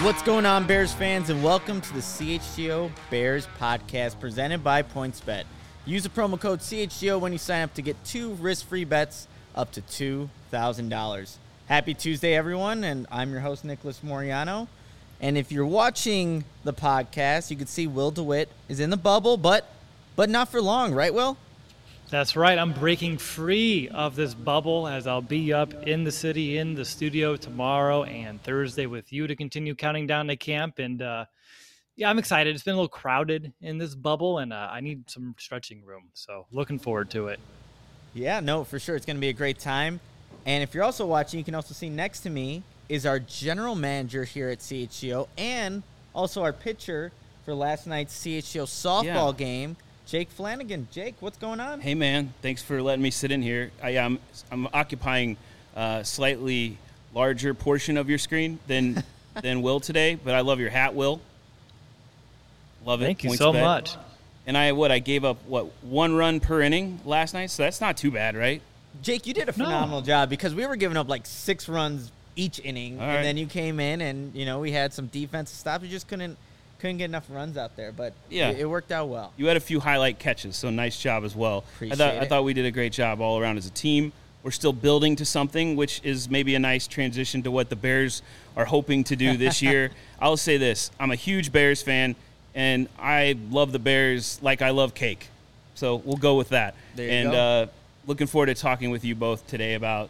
What's going on, Bears fans, and welcome to the CHGO Bears podcast presented by PointsBet. Use the promo code CHGO when you sign up to get 2 risk-free bets up to $2,000. Happy Tuesday, everyone, and I'm your host, Nicholas Moriano. And if you're watching the podcast, you can see Will DeWitt is in the bubble, but not for long, right, Will? That's right. I'm breaking free of this bubble as I'll be up in the city, in the studio tomorrow and Thursday with you to continue counting down to camp. And I'm excited. It's been a little crowded in this bubble, and I need some stretching room. So looking forward to it. Yeah, no, for sure. It's going to be a great time. And if you're also watching, you can also see next to me is our general manager here at CHGO and also our pitcher for last night's CHGO softball game, Jake Flanagan. Jake, what's going on? Hey, man. Thanks for letting me sit in here. I'm occupying a slightly larger portion of your screen than Will today, but I love your hat, Will. Love it. Thank you so much. And I gave up, 1 run per inning last night? So that's not too bad, right? Jake, you did a phenomenal job because we were giving up like 6 runs each inning, and then you came in and, we had some defensive stops. We just couldn't get enough runs out there, but it worked out well. You had a few highlight catches, so nice job as well. I thought we did a great job all around as a team. We're still building to something, which is maybe a nice transition to what the Bears are hoping to do this year. I'll say this. I'm a huge Bears fan, and I love the Bears like I love cake. So we'll go with that. There you go. Looking forward to talking with you both today about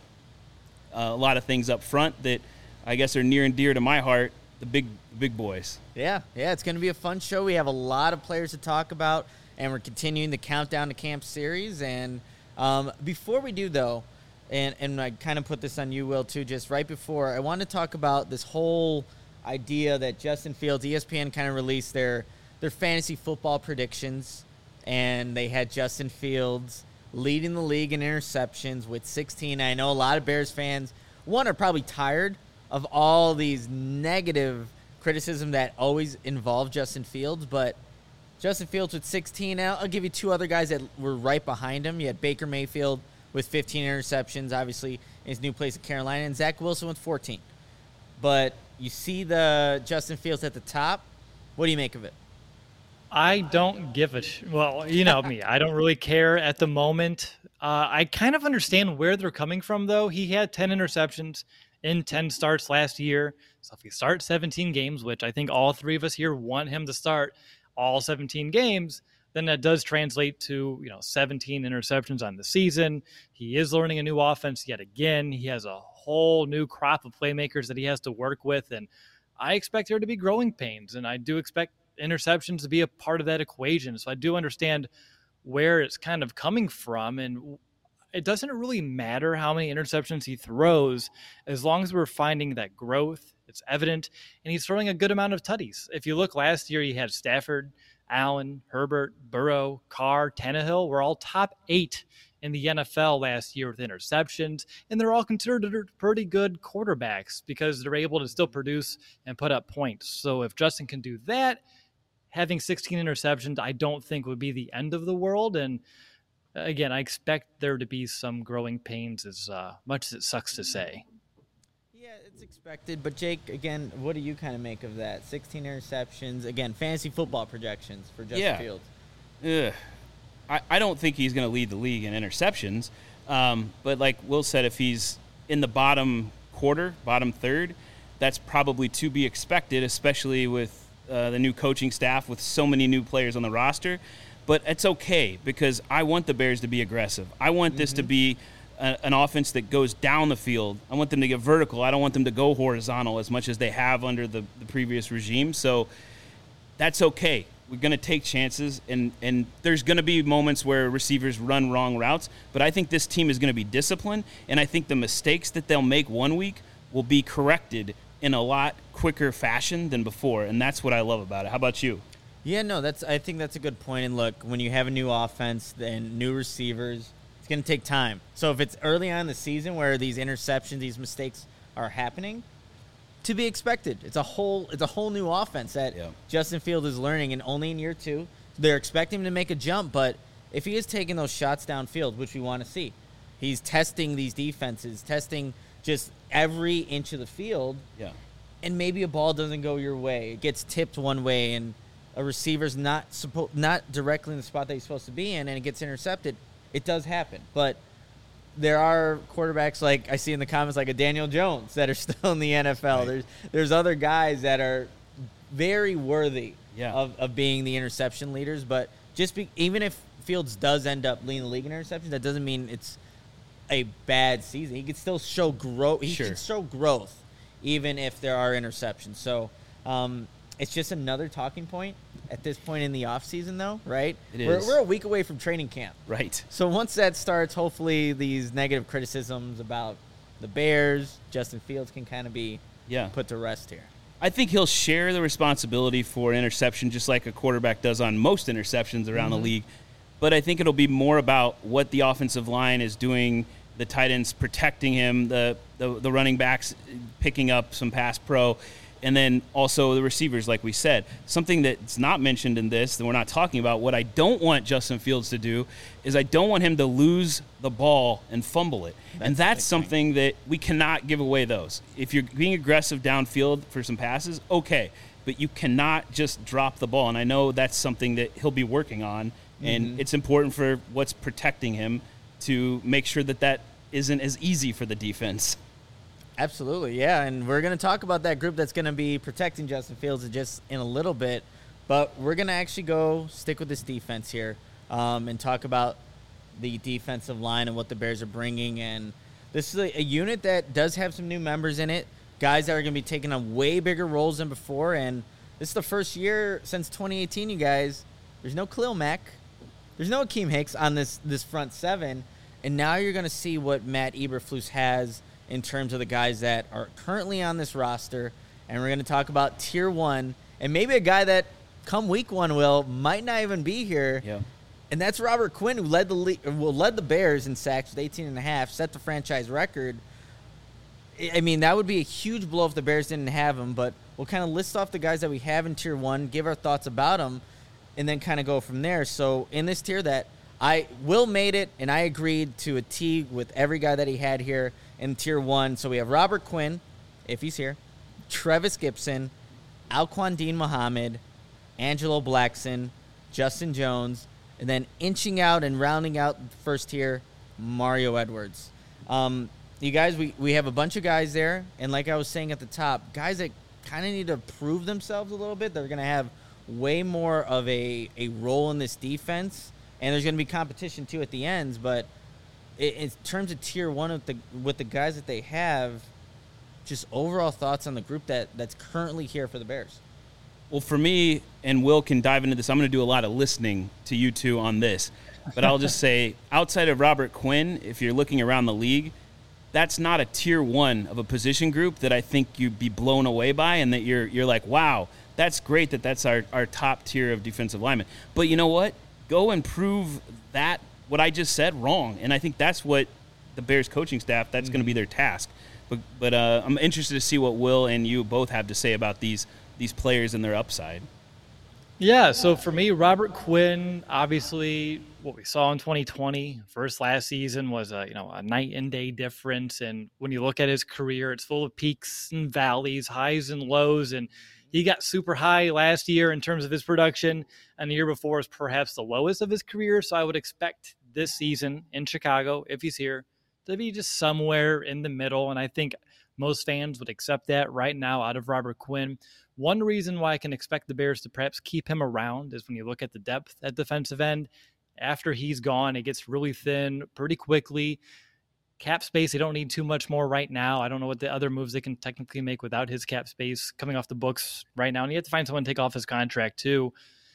a lot of things up front that I guess are near and dear to my heart. The big boys. Yeah, it's going to be a fun show. We have a lot of players to talk about, and we're continuing the Countdown to Camp series. And before we do, though, and I kind of put this on you, Will, too, just right before, I want to talk about this whole idea that Justin Fields, ESPN kind of released their fantasy football predictions, and they had Justin Fields leading the league in interceptions with 16. I know a lot of Bears fans, are probably tired of all these negative criticism that always involve Justin Fields, but Justin Fields with 16 now. I'll give you 2 other guys that were right behind him. You had Baker Mayfield with 15 interceptions, obviously, in his new place at Carolina, and Zach Wilson with 14. But you see the Justin Fields at the top. What do you make of it? I don't give a well, you know me. I don't really care at the moment. I kind of understand where they're coming from, though. He had 10 interceptions in 10 starts last year. So if he starts 17 games, which I think all 3 of us here want him to start all 17 games, then that does translate to, 17 interceptions on the season. He is learning a new offense yet again. He has a whole new crop of playmakers that he has to work with, and I expect there to be growing pains, and I do expect interceptions to be a part of that equation. So I do understand where it's kind of coming from, and it doesn't really matter how many interceptions he throws as long as we're finding that growth. It's evident, and he's throwing a good amount of tutties. If you look last year, he had Stafford, Allen, Herbert, Burrow, Carr, Tannehill were all top 8 in the NFL last year with interceptions, and they're all considered pretty good quarterbacks because they're able to still produce and put up points. So if Justin can do that, having 16 interceptions I don't think would be the end of the world, and again, I expect there to be some growing pains as much as it sucks to say. Yeah, it's expected. But, Jake, again, what do you kind of make of that? 16 interceptions. Again, fantasy football projections for Justin Fields. Yeah. I don't think he's going to lead the league in interceptions. But like Will said, if he's in the bottom quarter, bottom third, that's probably to be expected, especially with the new coaching staff with so many new players on the roster. But it's okay because I want the Bears to be aggressive. I want this to be an offense that goes down the field. I want them to get vertical. I don't want them to go horizontal as much as they have under the previous regime. So that's okay. We're going to take chances, and there's going to be moments where receivers run wrong routes. But I think this team is going to be disciplined, and I think the mistakes that they'll make one week will be corrected in a lot quicker fashion than before, and that's what I love about it. How about you? Yeah, no, I think that's a good point. And look, when you have a new offense and new receivers, it's going to take time. So if it's early on in the season where these interceptions, these mistakes are happening, to be expected. It's a whole new offense that Justin Fields is learning, and only in year 2. They're expecting him to make a jump, but if he is taking those shots downfield, which we want to see, he's testing these defenses, testing just every inch of the field. Yeah. and maybe a ball doesn't go your way. It gets tipped one way, and a receiver's not directly in the spot that he's supposed to be in, and it gets intercepted. It does happen. But there are quarterbacks like I see in the comments, like a Daniel Jones, that are still in the NFL. Right. There's other guys that are very worthy Yeah. of being the interception leaders. But even if Fields does end up leading the league in interceptions, that doesn't mean it's a bad season. He could still show growth. He can show growth even if there are interceptions. So it's just another talking point at this point in the offseason, though, right? It is. We're a week away from training camp. Right. So once that starts, hopefully these negative criticisms about the Bears, Justin Fields can kind of be put to rest here. I think he'll share the responsibility for interception just like a quarterback does on most interceptions around the league. But I think it'll be more about what the offensive line is doing, the tight ends protecting him, the running backs picking up some pass pro, and then also the receivers, like we said. Something that's not mentioned in this that we're not talking about, what I don't want Justin Fields to do is I don't want him to lose the ball and fumble it. And that's something that we cannot give away those. If you're being aggressive downfield for some passes, okay, but you cannot just drop the ball. And I know that's something that he'll be working on, and it's important for what's protecting him to make sure that isn't as easy for the defense. Absolutely, yeah, and we're going to talk about that group that's going to be protecting Justin Fields just in a little bit, but we're going to actually stick with this defense here and talk about the defensive line and what the Bears are bringing. And this is a unit that does have some new members in it, guys that are going to be taking on way bigger roles than before, and this is the first year since 2018, you guys. There's no Khalil Mack. There's no Akeem Hicks on this front seven, and now you're going to see what Matt Eberflus has in terms of the guys that are currently on this roster. And we're going to talk about Tier 1 and maybe a guy that come week 1 might not even be here. Yeah. And that's Robert Quinn, who led the Bears in sacks with 18.5, set the franchise record. I mean, that would be a huge blow if the Bears didn't have him, but we'll kind of list off the guys that we have in Tier 1, give our thoughts about them, and then kind of go from there. So in this tier Will made it, and I agreed to a T with every guy that he had here in Tier 1. So we have Robert Quinn, if he's here, Trevis Gibson, Alquan Dean Muhammad, Angelo Blackson, Justin Jones, and then inching out and rounding out the first tier, Mario Edwards. You guys, we have a bunch of guys there, and like I was saying at the top, guys that kind of need to prove themselves a little bit. They're going to have way more of a role in this defense, and there's going to be competition too at the ends. But in terms of Tier 1 with the guys that they have, just overall thoughts on the group that's currently here for the Bears. Well, for me, and Will can dive into this, I'm going to do a lot of listening to you two on this. But I'll just say, outside of Robert Quinn, if you're looking around the league, that's not a Tier 1 of a position group that I think you'd be blown away by, and that you're like, wow, that's great that's our top tier of defensive linemen. But you know what? Go and prove that what I just said wrong. And I think that's what the Bears coaching staff, that's going to be their task. But I'm interested to see what Will and you both have to say about these players and their upside. Yeah, so for me, Robert Quinn, obviously what we saw in 2020, last season was a night and day difference. And when you look at his career, it's full of peaks and valleys, highs and lows. And he got super high last year in terms of his production, and the year before was perhaps the lowest of his career. So I would expect this season in Chicago, if he's here, to be just somewhere in the middle. And I think most fans would accept that right now out of Robert Quinn. One reason why I can expect the Bears to perhaps keep him around is when you look at the depth at defensive end. After he's gone, it gets really thin pretty quickly. Cap space, they don't need too much more right now. I don't know what the other moves they can technically make without his cap space coming off the books right now. And you have to find someone to take off his contract too.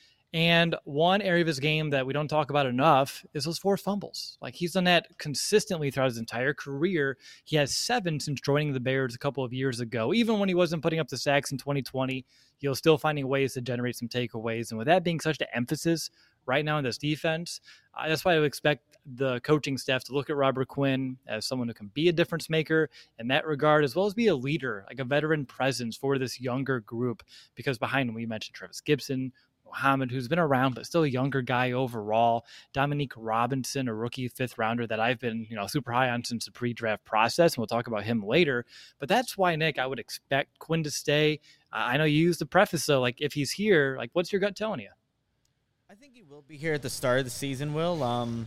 And one area of his game that we don't talk about enough is those forced fumbles. Like, he's done that consistently throughout his entire career. He has 7 since joining the Bears a couple of years ago. Even when he wasn't putting up the sacks in 2020, he was still finding ways to generate some takeaways. And with that being such an emphasis right now in this defense, that's why I would expect the coaching staff to look at Robert Quinn as someone who can be a difference maker in that regard, as well as be a leader, like a veteran presence for this younger group. Because behind him, we mentioned Trevis Gibson, Muhammad, who's been around but still a younger guy overall. Dominique Robinson, a rookie 5th rounder that I've been, super high on since the pre-draft process, and we'll talk about him later. But that's why, Nick, I would expect Quinn to stay. I know you used the preface, so if he's here, what's your gut telling you? I think he will be here at the start of the season, Will.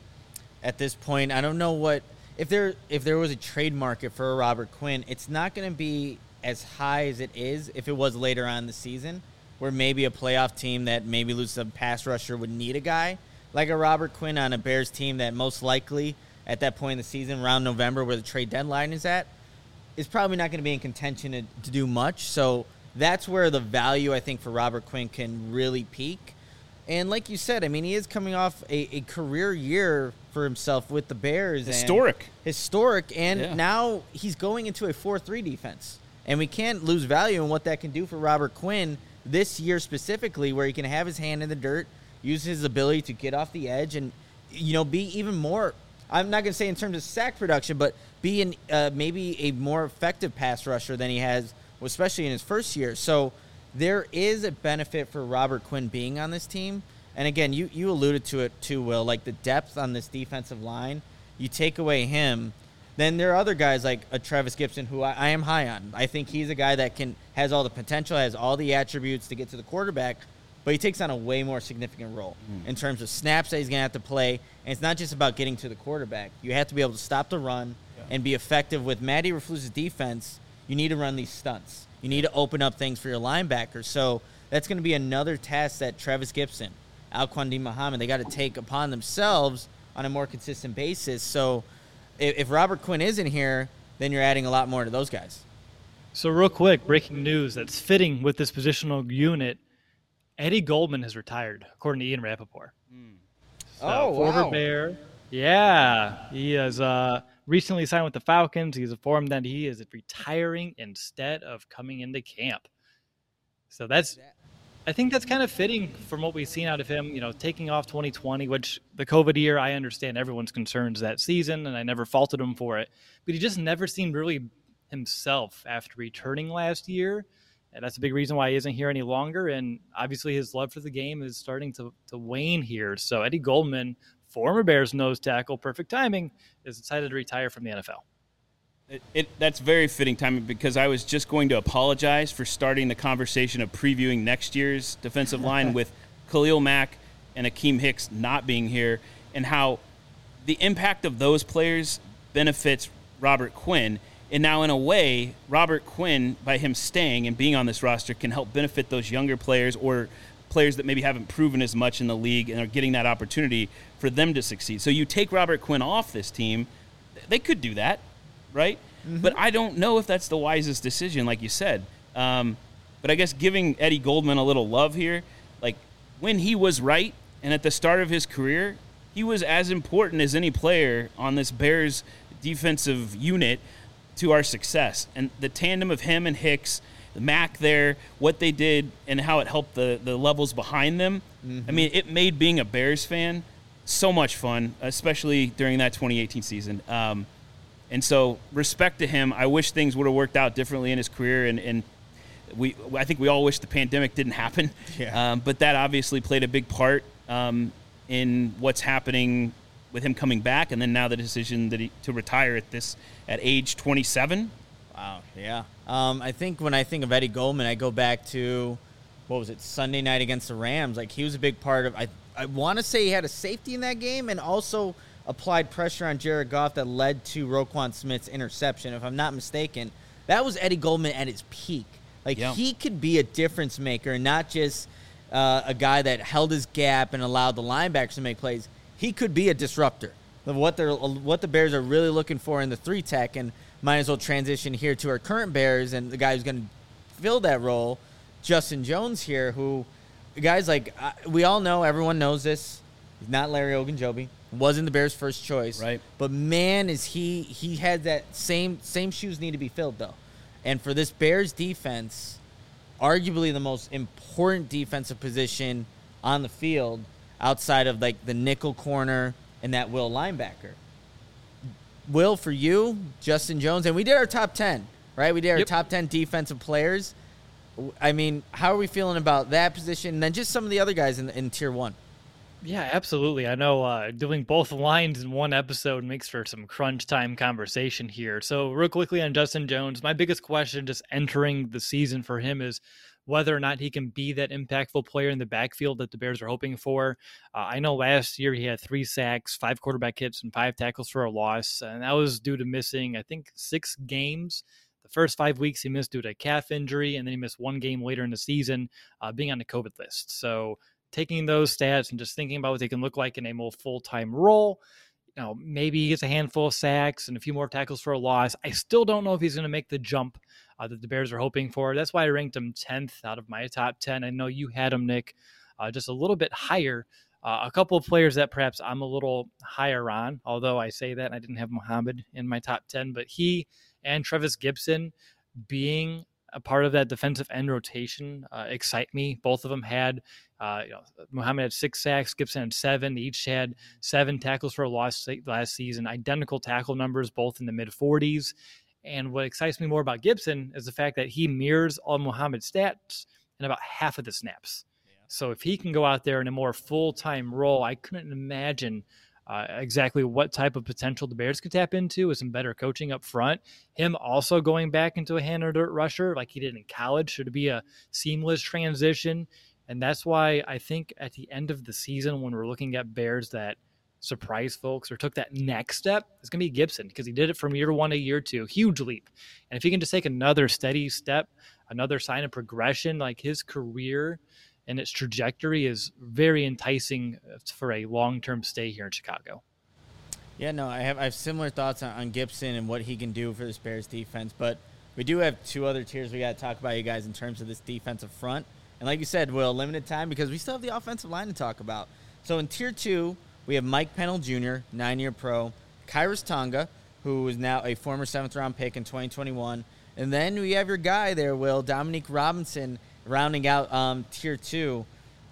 At this point, I don't know what if there was a trade market for a Robert Quinn, it's not going to be as high as it is if it was later on in the season, where maybe a playoff team that maybe loses a pass rusher would need a guy like a Robert Quinn on a Bears team that most likely at that point in the season, around November where the trade deadline is at, is probably not going to be in contention to do much. So that's where the value, I think, for Robert Quinn can really peak. And like you said, I mean, he is coming off a career year for himself with the Bears. Historic. And now he's going into a 4-3 defense. And we can't lose value in what that can do for Robert Quinn this year specifically, where he can have his hand in the dirt, use his ability to get off the edge, and, be even more, I'm not going to say in terms of sack production, but be maybe a more effective pass rusher than he has, especially in his first year. So there is a benefit for Robert Quinn being on this team. And again, you alluded to it too, Will, the depth on this defensive line. You take away him, then there are other guys like a Travis Gibson, who I am high on. I think he's a guy that has all the potential, has all the attributes to get to the quarterback, but he takes on a way more significant role in terms of snaps that he's going to have to play. And it's not just about getting to the quarterback. You have to be able to stop the run and be effective with Matt Eberflus's defense. You need to run these stunts. You need to open up things for your linebackers. So that's going to be another task that Travis Gibson, Alquan Muhammad, they got to take upon themselves on a more consistent basis. So if Robert Quinn isn't here, then you're adding a lot more to those guys. So real quick, breaking news that's fitting with this positional unit. Eddie Goldman has retired, according to Ian Rappaport. Former Bear. Yeah, he has recently signed with the Falcons. He's informed that he is retiring instead of coming into camp. So I think that's kind of fitting from what we've seen out of him, taking off 2020, which the COVID year, I understand everyone's concerns that season, and I never faulted him for it. But he just never seemed really himself after returning last year. And that's a big reason why he isn't here any longer. And obviously his love for the game is starting to wane here. So Eddie Goldman, former Bears nose tackle, perfect timing, is decided to retire from the NFL. That's very fitting timing, because I was just going to apologize for starting the conversation of previewing next year's defensive line with Khalil Mack and Akeem Hicks not being here, and how the impact of those players benefits Robert Quinn. And now, in a way, Robert Quinn, by him staying and being on this roster, can help benefit those younger players or players that maybe haven't proven as much in the league and are getting that opportunity for them to succeed. So you take Robert Quinn off this team, they could do that, right? Mm-hmm. But I don't know if that's the wisest decision, like you said. But I guess giving Eddie Goldman a little love here, when he was right and at the start of his career, he was as important as any player on this Bears defensive unit to our success. And the tandem of him and Hicks, Mack there, what they did and how it helped the levels behind them. Mm-hmm. I mean, it made being a Bears fan so much fun, especially during that 2018 season. And so respect to him. I wish things would have worked out differently in his career. And I think we all wish the pandemic didn't happen. Yeah. But that obviously played a big part in what's happening with him coming back, and then now the decision to retire at age 27. Wow, yeah. I think when I think of Eddie Goldman, I go back to, Sunday night against the Rams. He was a big part of, I want to say he had a safety in that game and also applied pressure on Jared Goff that led to Roquan Smith's interception, if I'm not mistaken. That was Eddie Goldman at his peak. He could be a difference maker and not just a guy that held his gap and allowed the linebackers to make plays. He could be a disruptor of what the Bears are really looking for in the 3-tech, and might as well transition here to our current Bears and the guy who's going to fill that role, Justin Jones here, who guys we all know, everyone knows this. He's not Larry Ogunjobi. Wasn't the Bears' first choice. Right. But man, is he had that same shoes need to be filled though. And for this Bears defense, arguably the most important defensive position on the field, outside of the nickel corner and that Will linebacker. Will, for you, Justin Jones, and we did our top 10, right? We did our top 10 defensive players. I mean, how are we feeling about that position? And then just some of the other guys in Tier 1. Yeah, absolutely. I know doing both lines in one episode makes for some crunch time conversation here. So real quickly on Justin Jones, my biggest question just entering the season for him is whether or not he can be that impactful player in the backfield that the Bears are hoping for. I know last year he had 3 sacks, 5 quarterback hits, and 5 tackles for a loss. And that was due to missing, I think, 6 games. The first 5 weeks he missed due to a calf injury, and then he missed 1 game later in the season being on the COVID list. So taking those stats and just thinking about what they can look like in a more full-time role, maybe he gets a handful of sacks and a few more tackles for a loss. I still don't know if he's going to make the jump that the Bears are hoping for. That's why I ranked him 10th out of my top 10. I know you had him, Nick, just a little bit higher. A couple of players that perhaps I'm a little higher on, although I say that I didn't have Muhammad in my top 10, but he and Trevis Gipson being a part of that defensive end rotation excite me. Both of them had, Muhammad had 6 sacks, Gipson had 7. They each had 7 tackles for a loss last season, identical tackle numbers, both in the mid-40s. And what excites me more about Gipson is the fact that he mirrors all Muhammad's stats in about half of the snaps. Yeah. So if he can go out there in a more full-time role, I couldn't imagine exactly what type of potential the Bears could tap into with some better coaching up front. Him also going back into a hand or dirt rusher like he did in college should be a seamless transition. And that's why I think at the end of the season, when we're looking at Bears that surprise folks or took that next step, it's going to be Gipson, because he did it from year 1 to year 2, huge leap. And if he can just take another steady step, another sign of progression, like his career and its trajectory is very enticing for a long-term stay here in Chicago. Yeah, no, I have similar thoughts on Gipson and what he can do for this Bears defense, but we do have 2 other tiers we got to talk about, you guys, in terms of this defensive front. And like you said, Will, limited time because we still have the offensive line to talk about. So in Tier 2, we have Mike Pennell Jr., 9-year pro, Khyiris Tonga, who is now a former 7th-round pick in 2021. And then we have your guy there, Will, Dominique Robinson, rounding out Tier 2.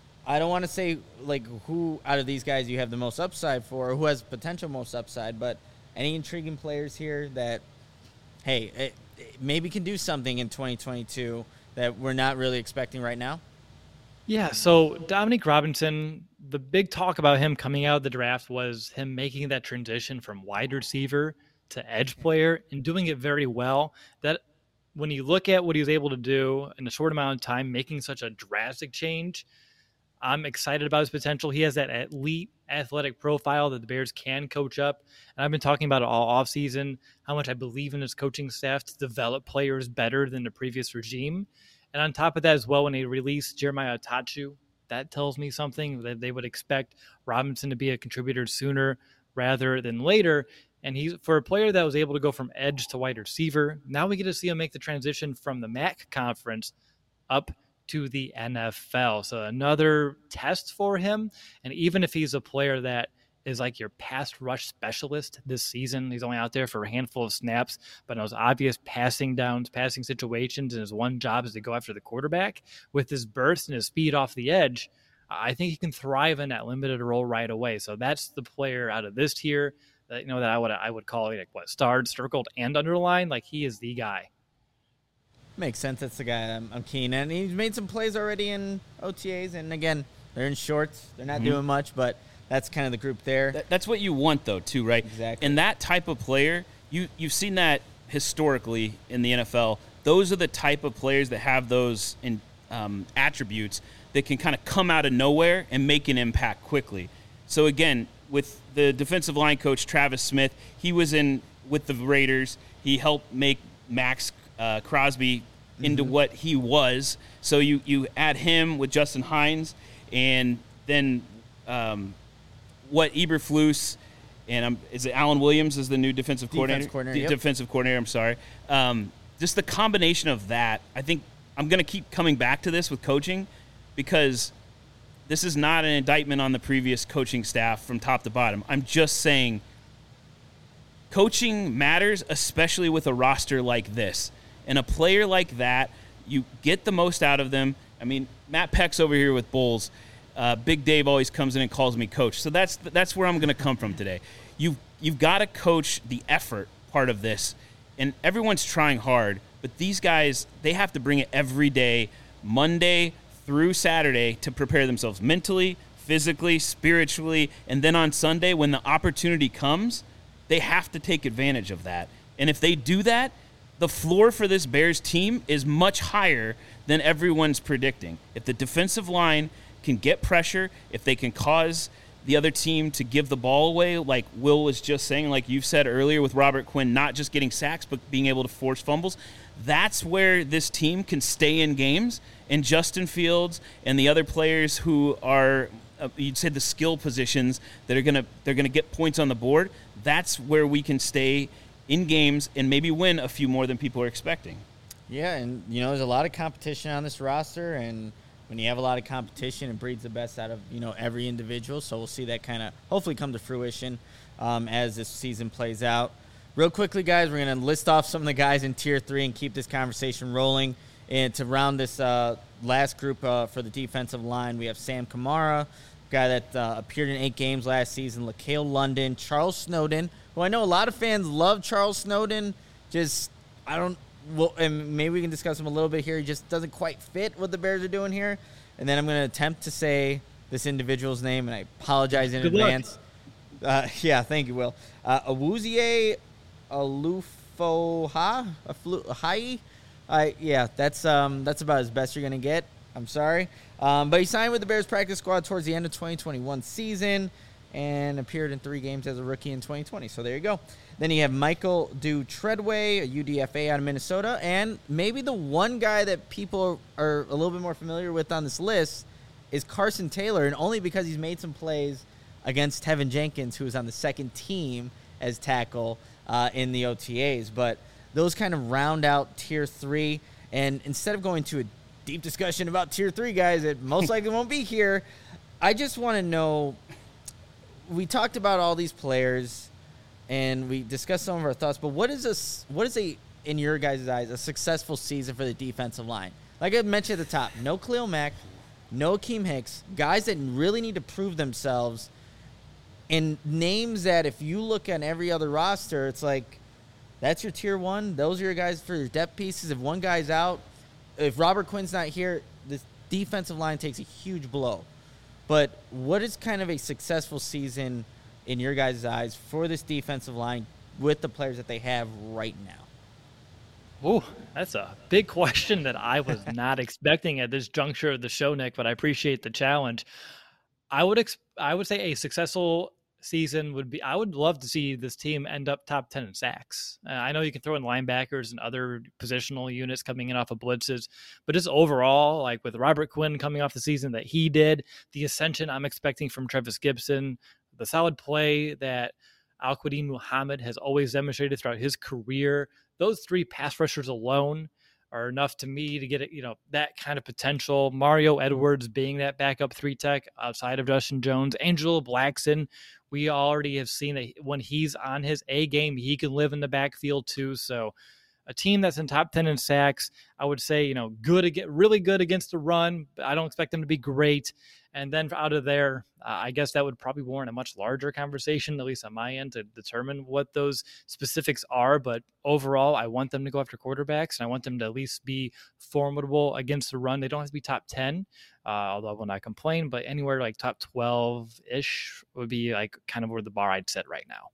I don't want to say, who out of these guys you have the most upside for or who has potential most upside, but any intriguing players here that, hey, it maybe can do something in 2022 that we're not really expecting right now? Yeah, so Dominique Robinson, the big talk about him coming out of the draft was him making that transition from wide receiver to edge player and doing it very well. That when you look at what he was able to do in a short amount of time, making such a drastic change, I'm excited about his potential. He has that elite athletic profile that the Bears can coach up. And I've been talking about it all offseason, how much I believe in his coaching staff to develop players better than the previous regime. And on top of that as well, when they released Jeremiah Tachu, that tells me something that they would expect Robinson to be a contributor sooner rather than later. And he's, for a player that was able to go from edge to wide receiver, now we get to see him make the transition from the MAC conference up to the NFL. So another test for him. And even if he's a player that is like your pass rush specialist this season, he's only out there for a handful of snaps, but in those obvious passing downs, passing situations, and his one job is to go after the quarterback. With his burst and his speed off the edge, I think he can thrive in that limited role right away. So that's the player out of this tier that, that I would call starred, circled, and underlined. Like, he is the guy. Makes sense. That's the guy I'm keen. And he's made some plays already in OTAs. And again, they're in shorts. They're not doing much, but that's kind of the group there. That's what you want, though, too, right? Exactly. And that type of player, you've seen that historically in the NFL. Those are the type of players that have those attributes that can kind of come out of nowhere and make an impact quickly. So, again, with the defensive line coach, Travis Smith, he was in with the Raiders. He helped make Max Crosby into what he was. So you add him with Justin Hines, and then what Eberflus and is it Alan Williams is the new defensive coordinator? Yep. Defensive coordinator, I'm sorry. Just the combination of that, I think I'm going to keep coming back to this with coaching, because this is not an indictment on the previous coaching staff from top to bottom. I'm just saying coaching matters, especially with a roster like this. And a player like that, you get the most out of them. I mean, Matt Peck's over here with Bulls. Big Dave always comes in and calls me coach. So that's where I'm going to come from today. You've got to coach the effort part of this, and everyone's trying hard, But these guys, they have to bring it every day, Monday through Saturday, to prepare themselves mentally, physically, spiritually, and then on Sunday, when the opportunity comes, they have to take advantage of that. And if they do that, the floor for this Bears team is much higher than everyone's predicting. If the defensive line can get pressure, if they can cause the other team to give the ball away, like Will was just saying, like you've said earlier with Robert Quinn, not just getting sacks, but being able to force fumbles, that's where this team can stay in games. And Justin Fields and the other players who are, you'd say, the skill positions that are they're gonna get points on the board, that's where we can stay in games and maybe win a few more than people are expecting. Yeah, and, there's a lot of competition on this roster, and when you have a lot of competition, it breeds the best out of, every individual. So we'll see that kind of hopefully come to fruition as this season plays out. Real quickly, guys, we're going to list off some of the guys in Tier 3 and keep this conversation rolling. And to round this last group for the defensive line, we have Sam Kamara, guy that appeared in 8 games last season, LaCale London, Charles Snowden, who I know a lot of fans love Charles Snowden. And maybe we can discuss him a little bit here. He just doesn't quite fit what the Bears are doing here. And then I'm going to attempt to say this individual's name, and I apologize in advance. Yeah, thank you, Will. Awuzie Alufohai. Yeah, that's about as best you're going to get. I'm sorry. But he signed with the Bears practice squad towards the end of 2021 season and appeared in 3 games as a rookie in 2020. So there you go. Then you have Michael Treadway, a UDFA out of Minnesota, and maybe the one guy that people are a little bit more familiar with on this list is Carson Taylor, and only because he's made some plays against Tevin Jenkins, who was on the second team as tackle in the OTAs. But those kind of round out Tier 3, and instead of going to a deep discussion about Tier 3 guys that most likely won't be here, I just want to know, we talked about all these players, and we discussed some of our thoughts, but what is in your guys' eyes, a successful season for the defensive line? Like I mentioned at the top, no Khalil Mack, no Akeem Hicks, guys that really need to prove themselves, and names that if you look at every other roster, it's like, that's your Tier 1. Those are your guys for your depth pieces. If one guy's out, if Robert Quinn's not here, this defensive line takes a huge blow. But what is kind of a successful season in your guys' eyes for this defensive line with the players that they have right now? Oh, that's a big question that I was not expecting at this juncture of the show, Nick, but I appreciate the challenge. I would say a successful season would be, I would love to see this team end up top 10 in sacks. I know you can throw in linebackers and other positional units coming in off of blitzes, but just overall, like with Robert Quinn coming off the season that he did, the ascension I'm expecting from Trevis Gibson, the solid play that Al-Quadin Muhammad has always demonstrated throughout his career, those 3 pass rushers alone are enough to me to get it, that kind of potential. Mario Edwards being that backup 3 tech outside of Justin Jones, Angelo Blackson. We already have seen that when he's on his A game, he can live in the backfield too. So a team that's in top 10 in sacks, I would say, really good against the run, but I don't expect them to be great. And then out of there, I guess that would probably warrant a much larger conversation, at least on my end, to determine what those specifics are. But overall, I want them to go after quarterbacks, and I want them to at least be formidable against the run. They don't have to be top 10, although I will not complain, but anywhere like top 12-ish would be like kind of where the bar I'd set right now.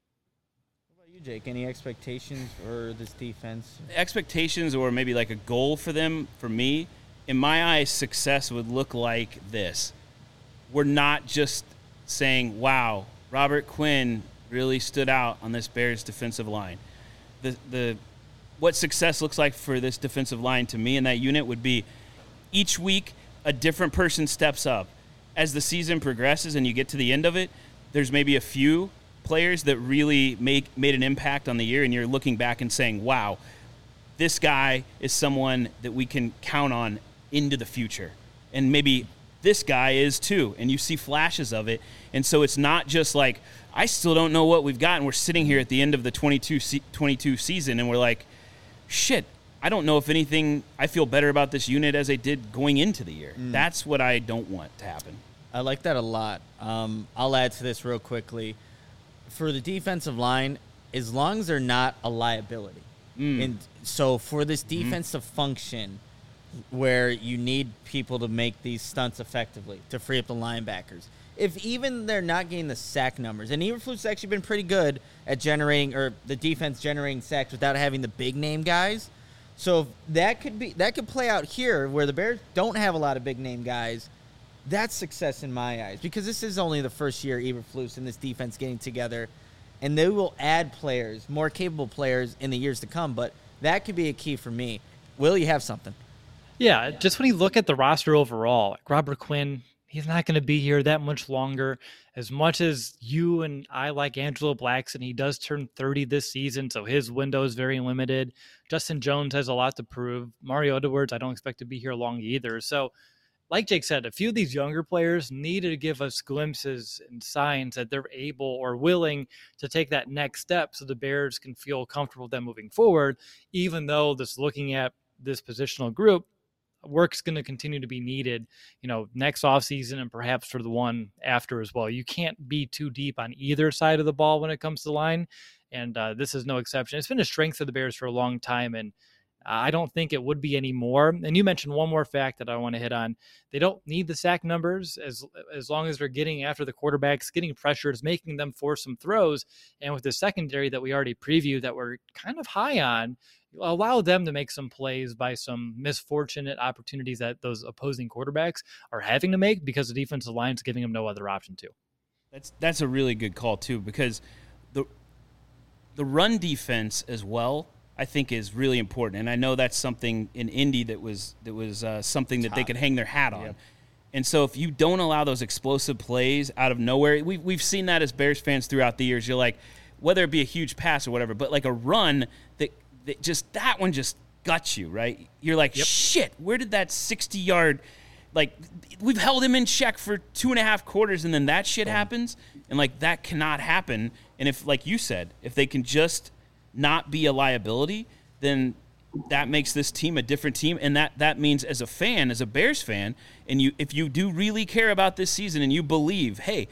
What about you, Jake? Any expectations for this defense? Expectations, or maybe like a goal for them, for me, in my eyes, success would look like this. We're not just saying, wow, Robert Quinn really stood out on this Bears defensive line. What success looks like for this defensive line to me in that unit would be each week a different person steps up. As the season progresses and you get to the end of it, there's maybe a few players that really made an impact on the year, and you're looking back and saying, wow, this guy is someone that we can count on into the future. And maybe this guy is too, and you see flashes of it. And so it's not just like, I still don't know what we've got, and we're sitting here at the end of the 22 season, and we're like, shit, I don't know if anything, I feel better about this unit as I did going into the year. That's what I don't want to happen. I like that a lot. I'll add to this real quickly. For the defensive line, as long as they're not a liability, And so for this defense to function, where you need people to make these stunts effectively, to free up the linebackers, if even they're not getting the sack numbers, and Eberflus actually been pretty good at generating, or the defense generating sacks without having the big name guys. So that could play out here where the Bears don't have a lot of big name guys. That's success in my eyes, because this is only the first year Eberflus and this defense getting together, and they will add players, more capable players in the years to come. But that could be a key for me. Will, you have something? Yeah, just when you look at the roster overall, like Robert Quinn, he's not going to be here that much longer. As much as you and I like Angelo Blackson, he does turn 30 this season, so his window is very limited. Justin Jones has a lot to prove. Mario Edwards, I don't expect to be here long either. So, like Jake said, a few of these younger players needed to give us glimpses and signs that they're able or willing to take that next step so the Bears can feel comfortable with them moving forward, even though this looking at this positional group, work's going to continue to be needed, next offseason and perhaps for the one after as well. You can't be too deep on either side of the ball when it comes to the line, and this is no exception. It's been a strength of the Bears for a long time, and I don't think it would be anymore. And you mentioned one more fact that I want to hit on. They don't need the sack numbers as long as they're getting after the quarterbacks, getting pressures, making them force some throws. And with the secondary that we already previewed that we're kind of high on, allow them to make some plays by some misfortunate opportunities that those opposing quarterbacks are having to make because the defensive line is giving them no other option to. That's a really good call too, because the run defense as well, I think, is really important. And I know that's something in Indy that was something that they could hang their hat on. Yep. And so if you don't allow those explosive plays out of nowhere, we've seen that as Bears fans throughout the years. You're like, whether it be a huge pass or whatever, but like a run that one just guts you, right? You're like, shit, where did that 60-yard, like, we've held him in check for 2.5 quarters, and then that shit happens, and, like, that cannot happen. And if, like you said, if they can just not be a liability, then that makes this team a different team, and that means as a fan, as a Bears fan, and if you do really care about this season and you believe, hey,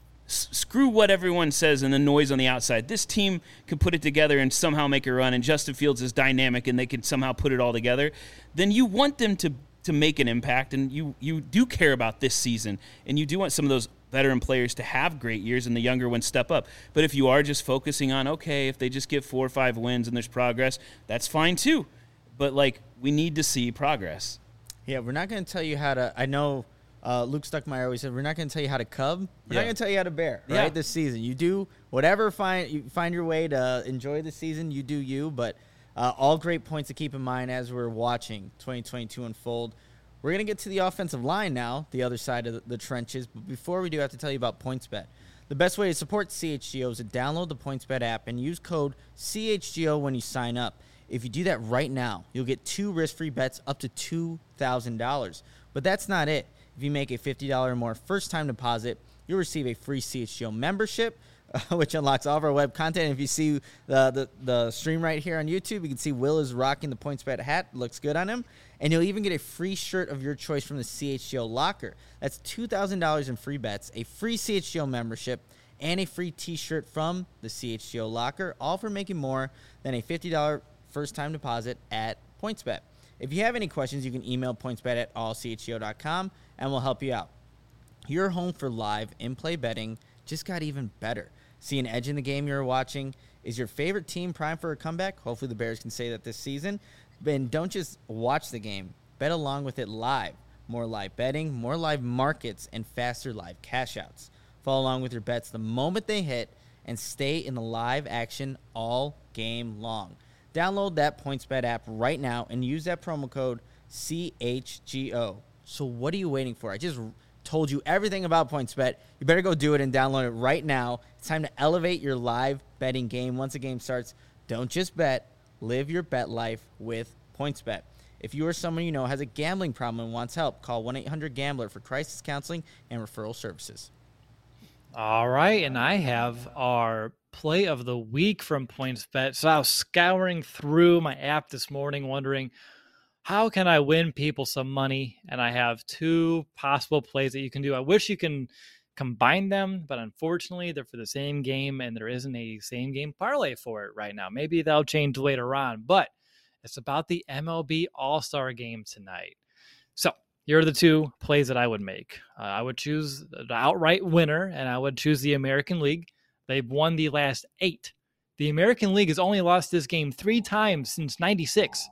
screw what everyone says and the noise on the outside. This team could put it together and somehow make a run, and Justin Fields is dynamic and they can somehow put it all together. Then you want them to make an impact, and you do care about this season, and you do want some of those veteran players to have great years and the younger ones step up. But if you are just focusing on, okay, if they just get 4 or 5 wins and there's progress, that's fine too. But, like, we need to see progress. Yeah, we're not going to tell you how to – I know – Luke Stuckmeyer always said, we're not going to tell you how to cub. We're not going to tell you how to bear, right, this season. You do whatever you find your way to enjoy the season. You do you, but all great points to keep in mind as we're watching 2022 unfold. We're going to get to the offensive line now, the other side of the trenches. But before we do, I have to tell you about PointsBet. The best way to support CHGO is to download the PointsBet app and use code CHGO when you sign up. If you do that right now, you'll get 2 risk-free bets up to $2,000. But that's not it. If you make a $50 or more first-time deposit, you'll receive a free CHGO membership, which unlocks all of our web content. And if you see the stream right here on YouTube, you can see Will is rocking the PointsBet hat. Looks good on him. And you'll even get a free shirt of your choice from the CHGO locker. That's $2,000 in free bets, a free CHGO membership, and a free T-shirt from the CHGO locker, all for making more than a $50 first-time deposit at PointsBet. If you have any questions, you can email pointsbet@allchgo.com, and we'll help you out. Your home for live in-play betting just got even better. See an edge in the game you're watching? Is your favorite team primed for a comeback? Hopefully the Bears can say that this season. Then don't just watch the game. Bet along with it live. More live betting, more live markets, and faster live cash outs. Follow along with your bets the moment they hit and stay in the live action all game long. Download that PointsBet app right now and use that promo code CHGO. So what are you waiting for? I just told you everything about PointsBet. You better go do it and download it right now. It's time to elevate your live betting game. Once the game starts, don't just bet. Live your bet life with PointsBet. If you or someone you know has a gambling problem and wants help, call 1-800-GAMBLER for crisis counseling and referral services. All right, and I have our play of the week from PointsBet. So I was scouring through my app this morning wondering, how can I win people some money? And I have 2 possible plays that you can do. I wish you can combine them, but unfortunately they're for the same game and there isn't a same game parlay for it right now. Maybe that'll change later on, but it's about the MLB All-Star Game tonight. So here are the two plays that I would make. I would choose the outright winner, and I would choose the American League. They've won the last 8. The American League has only lost this game 3 times since 96.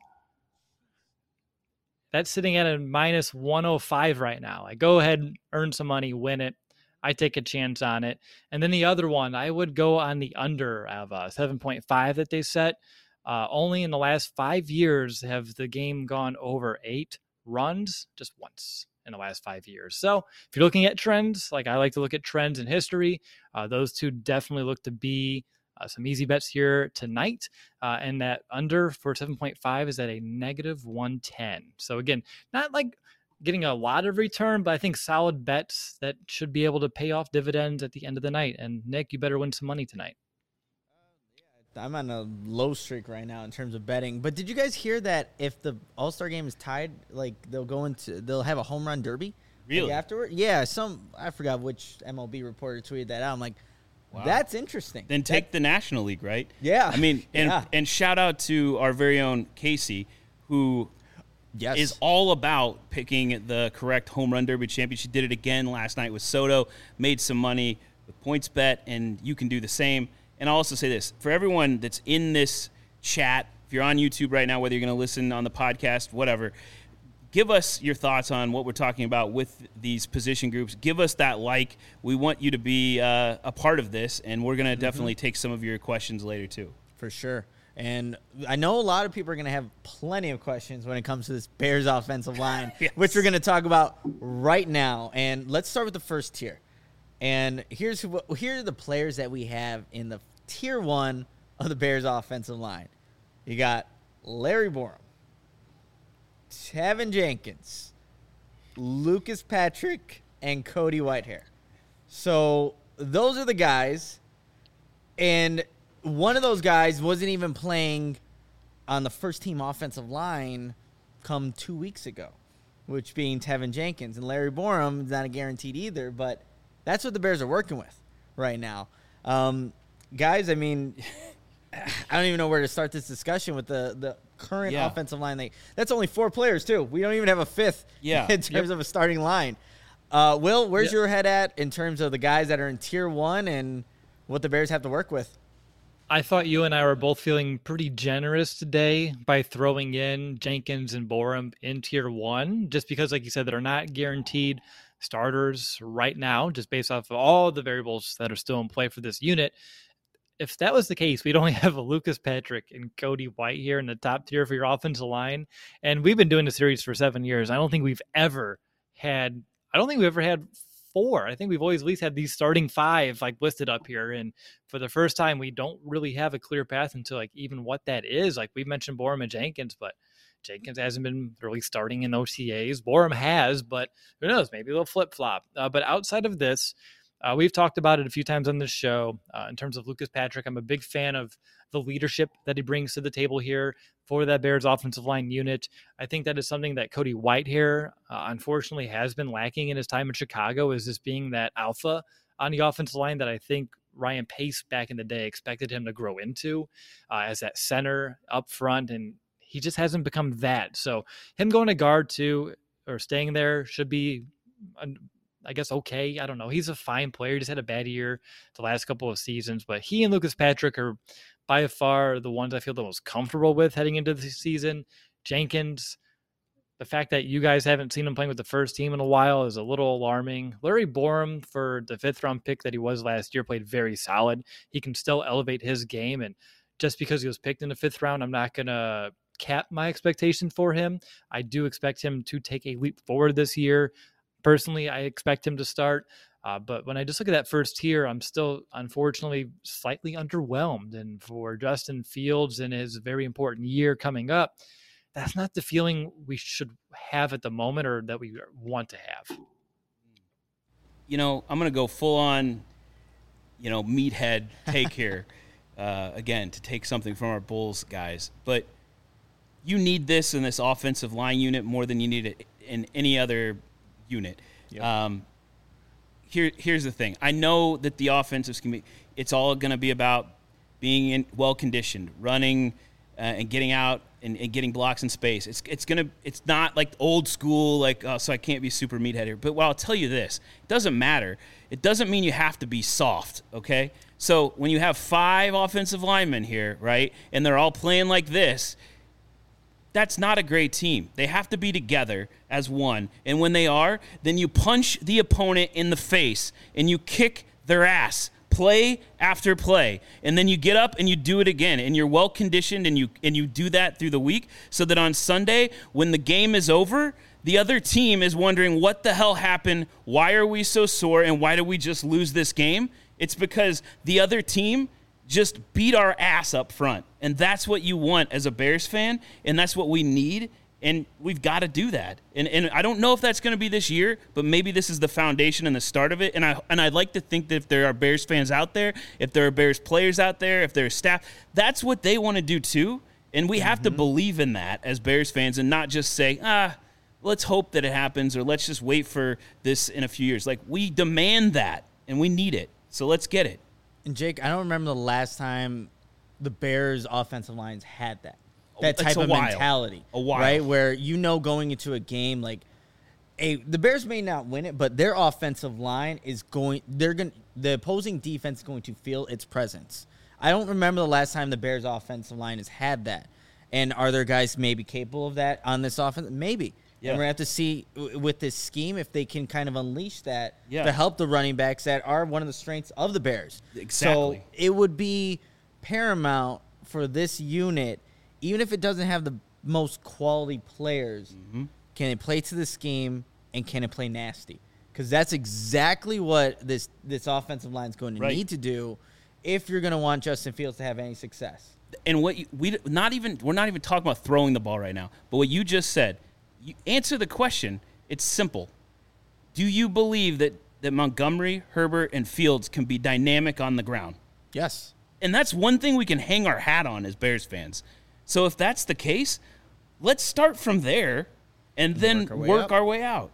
That's sitting at a minus 105 right now. I go ahead, earn some money, win it. I take a chance on it. And then the other one, I would go on the under of 7.5 that they set. Only in the last 5 years have the game gone over 8 runs, just once in the last 5 years. So if you're looking at trends, like I like to look at trends in history, those two definitely look to be some easy bets here tonight. And that under for 7.5 is at a negative 110. So again, not like getting a lot of return, but I think solid bets that should be able to pay off dividends at the end of the night. And Nick, you better win some money tonight. I'm on a low streak right now in terms of betting. But did you guys hear that if the All-Star game is tied, like they'll have a home run derby? Really? Like afterward? Yeah, I forgot which MLB reporter tweeted that out. I'm like, wow, that's interesting. Then take the National League, right? Yeah. I mean, and shout out to our very own Casey, who is all about picking the correct home run derby champion. She did it again last night with Soto, made some money with PointsBet, and you can do the same. And I'll also say this, for everyone that's in this chat, if you're on YouTube right now, whether you're going to listen on the podcast, whatever, give us your thoughts on what we're talking about with these position groups. Give us that like. We want you to be a part of this, and we're going to definitely take some of your questions later too. For sure. And I know a lot of people are going to have plenty of questions when it comes to this Bears offensive line, which we're going to talk about right now. And let's start with the first tier. And here are the players that we have in the tier 1 of the Bears offensive line. You got Larry Borom, Tevin Jenkins, Lucas Patrick, and Cody Whitehair. So those are the guys. And one of those guys wasn't even playing on the first team offensive line come 2 weeks ago, which being Tevin Jenkins. And Larry Borom is not a guaranteed either, but that's what the Bears are working with right now. Guys, I mean, I don't even know where to start this discussion with the current offensive line. That's only 4 players, too. We don't even have a 5th in terms of a starting line. Will, where's your head at in terms of the guys that are in tier 1 and what the Bears have to work with? I thought you and I were both feeling pretty generous today by throwing in Jenkins and Borom in tier 1, just because, like you said, they're not guaranteed starters right now, just based off of all the variables that are still in play for this unit. If that was the case, we'd only have a Lucas Patrick and Cody White here in the top tier for your offensive line. And we've been doing the series for 7 years. I don't think we've ever had 4. I think we've always at least had these starting 5 like listed up here. And for the first time, we don't really have a clear path into like even what that is. Like we mentioned Borom and Jenkins, but Jenkins hasn't been really starting in OTAs. Borom has, but who knows? Maybe they'll flip-flop. But outside of this, we've talked about it a few times on this show. In terms of Lucas Patrick, I'm a big fan of the leadership that he brings to the table here for that Bears offensive line unit. I think that is something that Cody Whitehair, unfortunately, has been lacking in his time in Chicago, is just being that alpha on the offensive line that I think Ryan Pace back in the day expected him to grow into as that center up front, and he just hasn't become that. So him going to guard too, or staying there should be, I guess, okay. I don't know. He's a fine player. He just had a bad year the last couple of seasons, but he and Lucas Patrick are by far the ones I feel the most comfortable with heading into the season. Jenkins, the fact that you guys haven't seen him playing with the first team in a while is a little alarming. Larry Borom, for the 5th round pick that he was last year, played very solid. He can still elevate his game, and just because he was picked in the 5th round, I'm not going to cap my expectation for him. I do expect him to take a leap forward this year. Personally, I expect him to start. But when I just look at that first tier, I'm still, unfortunately, slightly underwhelmed. And for Justin Fields in his very important year coming up, that's not the feeling we should have at the moment or that we want to have. You know, I'm going to go full on, meathead take here, again, to take something from our Bulls guys. But you need this in this offensive line unit more than you need it in any other unit. Yep. here's the thing. I know that the offensive scheme, it's all going to be about being well conditioned, running and getting out and getting blocks in space. It's not like old school, like, oh, so I can't be super meathead here. But well, I'll tell you this, it doesn't matter. It doesn't mean you have to be soft, okay? So when you have 5 offensive linemen here, right, and they're all playing like this, that's not a great team. They have to be together as one. And when they are, then you punch the opponent in the face and you kick their ass, play after play. And then you get up and you do it again. And you're well conditioned and you do that through the week so that on Sunday, when the game is over, the other team is wondering what the hell happened, why are we so sore, and why did we just lose this game? It's because the other team just beat our ass up front. And that's what you want as a Bears fan, and that's what we need, and we've got to do that. And I don't know if that's going to be this year, but maybe this is the foundation and the start of it. And I'd like to think that if there are Bears fans out there, if there are Bears players out there, if there's staff, that's what they want to do too. And we have to believe in that as Bears fans and not just say, let's hope that it happens or let's just wait for this in a few years. Like, we demand that, and we need it. So let's get it. And Jake, I don't remember the last time the Bears offensive lines had that type of mentality. A while. Right? Where going into a game, like, the Bears may not win it, but their offensive line is the opposing defense is going to feel its presence. I don't remember the last time the Bears offensive line has had that. And are there guys maybe capable of that on this offense? Maybe. Yeah. And we're going to have to see with this scheme if they can kind of unleash that to help the running backs that are one of the strengths of the Bears. Exactly. So it would be paramount for this unit, even if it doesn't have the most quality players, can it play to the scheme and can it play nasty? Because that's exactly what this offensive line is going to need to do if you're going to want Justin Fields to have any success. And we're not even talking about throwing the ball right now, but what you just said, you answer the question. It's simple. Do you believe that Montgomery, Herbert, and Fields can be dynamic on the ground? Yes. And that's one thing we can hang our hat on as Bears fans. So if that's the case, let's start from there and then work our way out.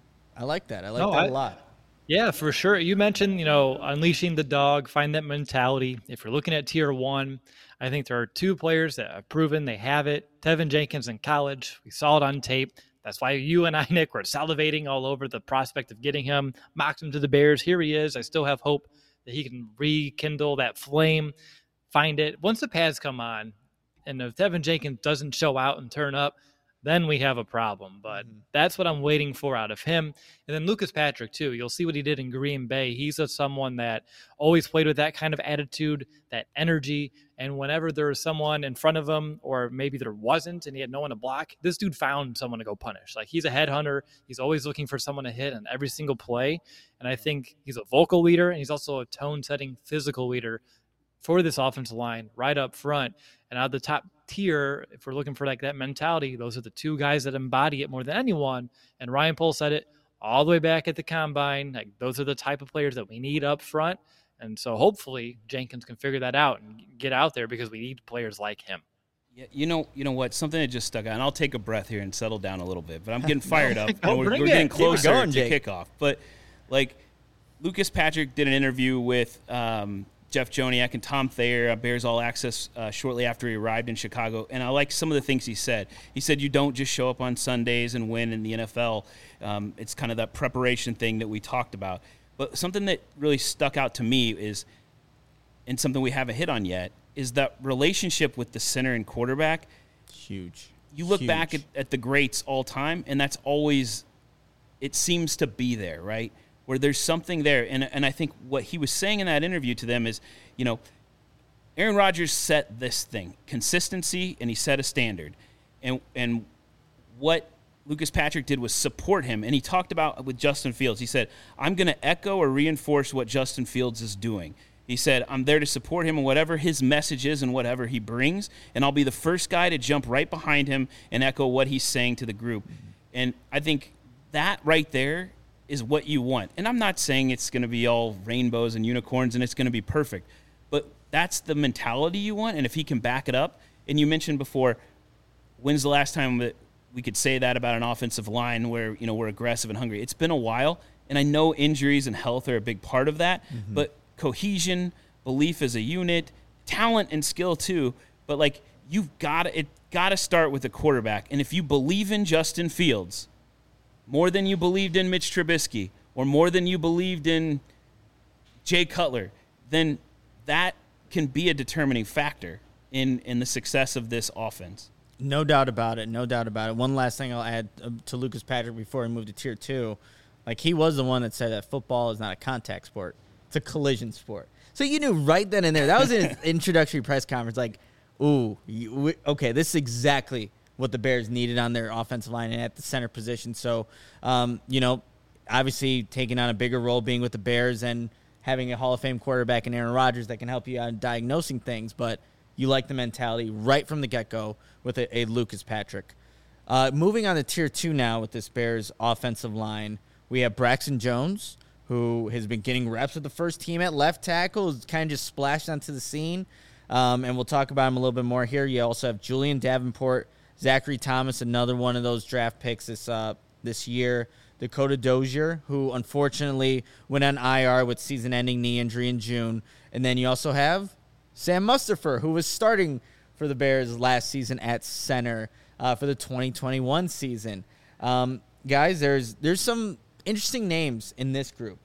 I like that. I like that a lot. Yeah, for sure. You mentioned, unleashing the dog, find that mentality. If you're looking at tier 1, I think there are 2 players that have proven they have it. Tevin Jenkins in college. We saw it on tape. That's why you and I, Nick, were salivating all over the prospect of getting him, mocked him to the Bears. Here he is. I still have hope that he can rekindle that flame, find it. Once the pads come on, and if Tevin Jenkins doesn't show out and turn up, then we have a problem. But that's what I'm waiting for out of him. And then Lucas Patrick, too. You'll see what he did in Green Bay. He's someone that always played with that kind of attitude, that energy. And whenever there was someone in front of him, or maybe there wasn't, and he had no one to block, this dude found someone to go punish. Like, he's a headhunter. He's always looking for someone to hit on every single play. And I think he's a vocal leader, and he's also a tone-setting physical leader for this offensive line right up front. And out of the top tier, if we're looking for like that mentality, those are the 2 guys that embody it more than anyone. And Ryan Poles said it all the way back at the combine. Like, those are the type of players that we need up front. And so hopefully Jenkins can figure that out and get out there, because we need players like him. Yeah, you know what? Something that just stuck out, and I'll take a breath here and settle down a little bit, but I'm getting fired up. We're getting closer to kickoff. But, like, Lucas Patrick did an interview with Jeff Joniak and Tom Thayer, Bears All Access, shortly after he arrived in Chicago. And I like some of the things he said. He said, you don't just show up on Sundays and win in the NFL. It's kind of that preparation thing that we talked about. But something that really stuck out to me is, and something we haven't hit on yet, is that relationship with the center and quarterback. Huge. You look back at the greats all time, and that's always, it seems to be there, right? Where there's something there. And I think what he was saying in that interview to them is, Aaron Rodgers set this thing, consistency, and he set a standard. And what Lucas Patrick did was support him. And he talked about with Justin Fields. He said, I'm going to echo or reinforce what Justin Fields is doing. He said, I'm there to support him in whatever his message is and whatever he brings, and I'll be the first guy to jump right behind him and echo what he's saying to the group. And I think that right there is what you want. And I'm not saying it's going to be all rainbows and unicorns and it's going to be perfect, but that's the mentality you want. And if he can back it up, and you mentioned before, when's the last time that we could say that about an offensive line where, we're aggressive and hungry? It's been a while, And I know injuries and health are a big part of that, but cohesion, belief as a unit, talent and skill too. But like you've got to start with the quarterback. And if you believe in Justin Fields more than you believed in Mitch Trubisky or more than you believed in Jay Cutler, then that can be a determining factor in the success of this offense. No doubt about it. No doubt about it. One last thing I'll add to Lucas Patrick before we move to Tier 2. Like, he was the one that said that football is not a contact sport. It's a collision sport. So you knew right then and there. That was in his introductory press conference. Like, okay, this is exactly what the Bears needed on their offensive line and at the center position. So, obviously taking on a bigger role being with the Bears and having a Hall of Fame quarterback in Aaron Rodgers that can help you out in diagnosing things. But you like the mentality right from the get-go with a Lucas Patrick. Moving on to Tier 2 now with this Bears offensive line, we have Braxton Jones, who has been getting reps with the first team at left tackle, is kind of just splashed onto the scene. And we'll talk about him a little bit more here. You also have Julian Davenport, Zachary Thomas, another one of those draft picks this year. Dakota Dozier, who unfortunately went on IR with season-ending knee injury in June. And then you also have Sam Mustipher, who was starting for the Bears last season at center for the 2021 season. Guys, there's some interesting names in this group,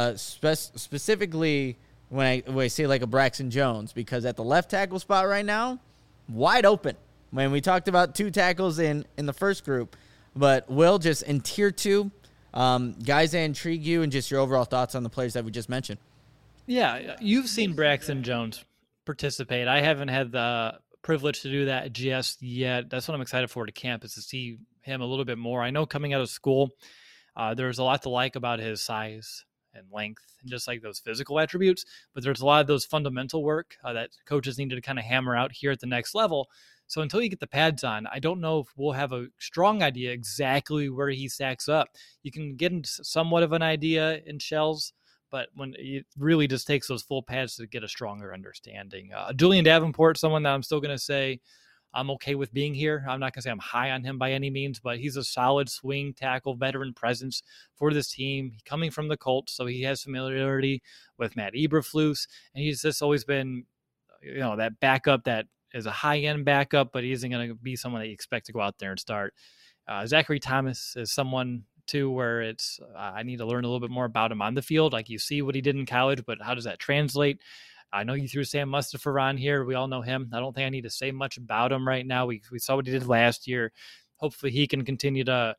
specifically when I say like a Braxton Jones, because at the left tackle spot right now, wide open. When we talked about 2 tackles in the first group, but Will, just in Tier 2, guys that intrigue you and just your overall thoughts on the players that we just mentioned. Yeah, you've seen Braxton Jones participate. I haven't had the privilege to do that just yet. That's what I'm excited for to camp, is to see him a little bit more. I know coming out of school, there's a lot to like about his size and length and just like those physical attributes, but there's a lot of those fundamental work that coaches needed to kind of hammer out here at the next level. So until you get the pads on, I don't know if we'll have a strong idea exactly where he stacks up. You can get somewhat of an idea in shells, but when it really just takes those full pads to get a stronger understanding. Julian Davenport, someone that I'm still going to say I'm okay with being here. I'm not going to say I'm high on him by any means, but he's a solid swing tackle veteran presence for this team. Coming from the Colts, so he has familiarity with Matt Eberflus, and he's just always been, that backup that is a high-end backup, but he isn't going to be someone that you expect to go out there and start. Zachary Thomas is someone, too, where it's I need to learn a little bit more about him on the field. Like, you see what he did in college, but how does that translate? I know you threw Sam Mustipher on here. We all know him. I don't think I need to say much about him right now. We saw what he did last year. Hopefully he can continue to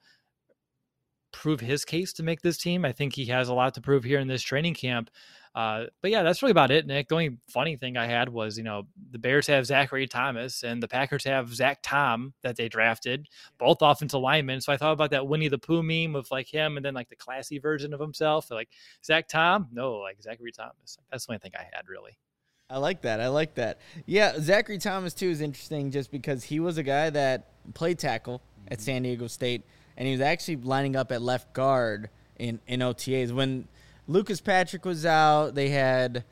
prove his case to make this team. I think he has a lot to prove here in this training camp. But yeah, that's really about it, Nick. The only funny thing I had was, the Bears have Zachary Thomas and the Packers have Zach Tom that they drafted, both offensive linemen. So I thought about that Winnie the Pooh meme of like him and then like the classy version of himself. Like Zach Tom? No, like Zachary Thomas. That's the only thing I had, really. I like that. Yeah, Zachary Thomas, too, is interesting just because he was a guy that played tackle at San Diego State, and he was actually lining up at left guard in OTAs. When Lucas Patrick was out, they had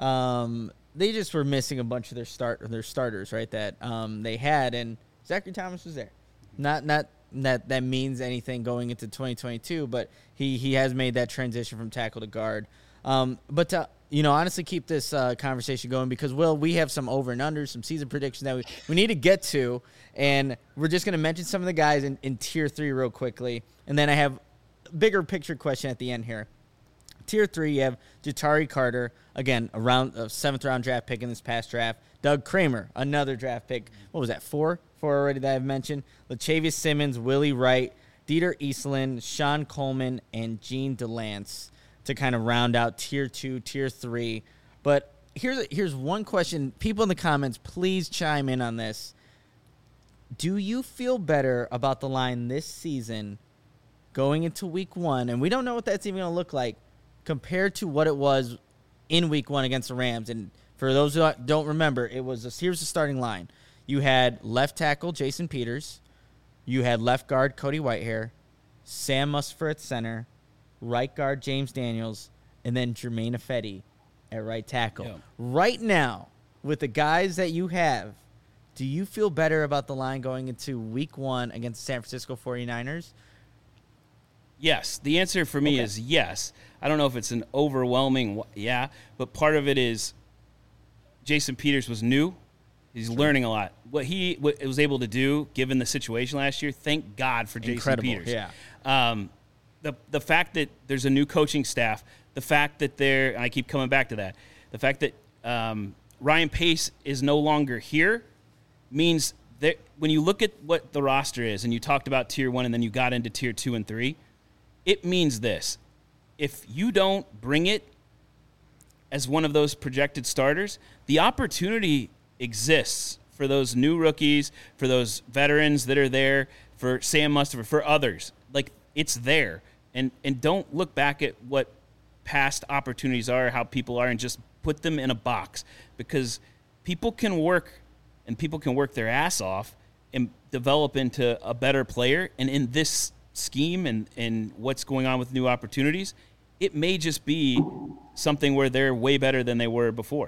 they just were missing a bunch of their starters, right, that they had, and Zachary Thomas was there. Not that means anything going into 2022, but he has made that transition from tackle to guard. But to honestly keep this conversation going, because, Will, we have some over and unders, some season predictions that we need to get to, and we're just going to mention some of the guys in Tier 3 real quickly, and then I have a bigger picture question at the end here. Tier 3, you have Ja'Tyre Carter, again, a 7th-round draft pick in this past draft. Doug Kramer, another draft pick. What was that, 4 already that I've mentioned? Latavius Simmons, Willie Wright, Dieter Eastland, Sean Coleman, and Gene DeLance to kind of round out Tier 2, Tier 3. But here's one question. People in the comments, please chime in on this. Do you feel better about the line this season going into Week 1? And we don't know what that's even going to look like compared to what it was in Week 1 against the Rams. And for those who don't remember, here's the starting line. You had left tackle Jason Peters. You had left guard Cody Whitehair. Sam Mustipher at center. Right guard James Daniels, and then Jermaine Ifedi at right tackle. Yeah. Right now, with the guys that you have, do you feel better about the line going into Week 1 against the San Francisco 49ers? Yes. The answer for me is yes. I don't know if it's an overwhelming yeah, but part of it is Jason Peters was new. He's learning a lot. What he was able to do, given the situation last year, thank God for Jason Peters. Yeah. The fact that there's a new coaching staff, the fact that and I keep coming back to that, the fact that Ryan Pace is no longer here means that when you look at what the roster is, and you talked about Tier 1 and then you got into Tier 2 and 3, it means this. If you don't bring it as one of those projected starters, the opportunity exists for those new rookies, for those veterans that are there, for Sam Mustipher, for others. Like, it's there. And don't look back at what past opportunities are, how people are, and just put them in a box, because people can work and people can work their ass off and develop into a better player. And in this scheme and what's going on with new opportunities, it may just be something where they're way better than they were before.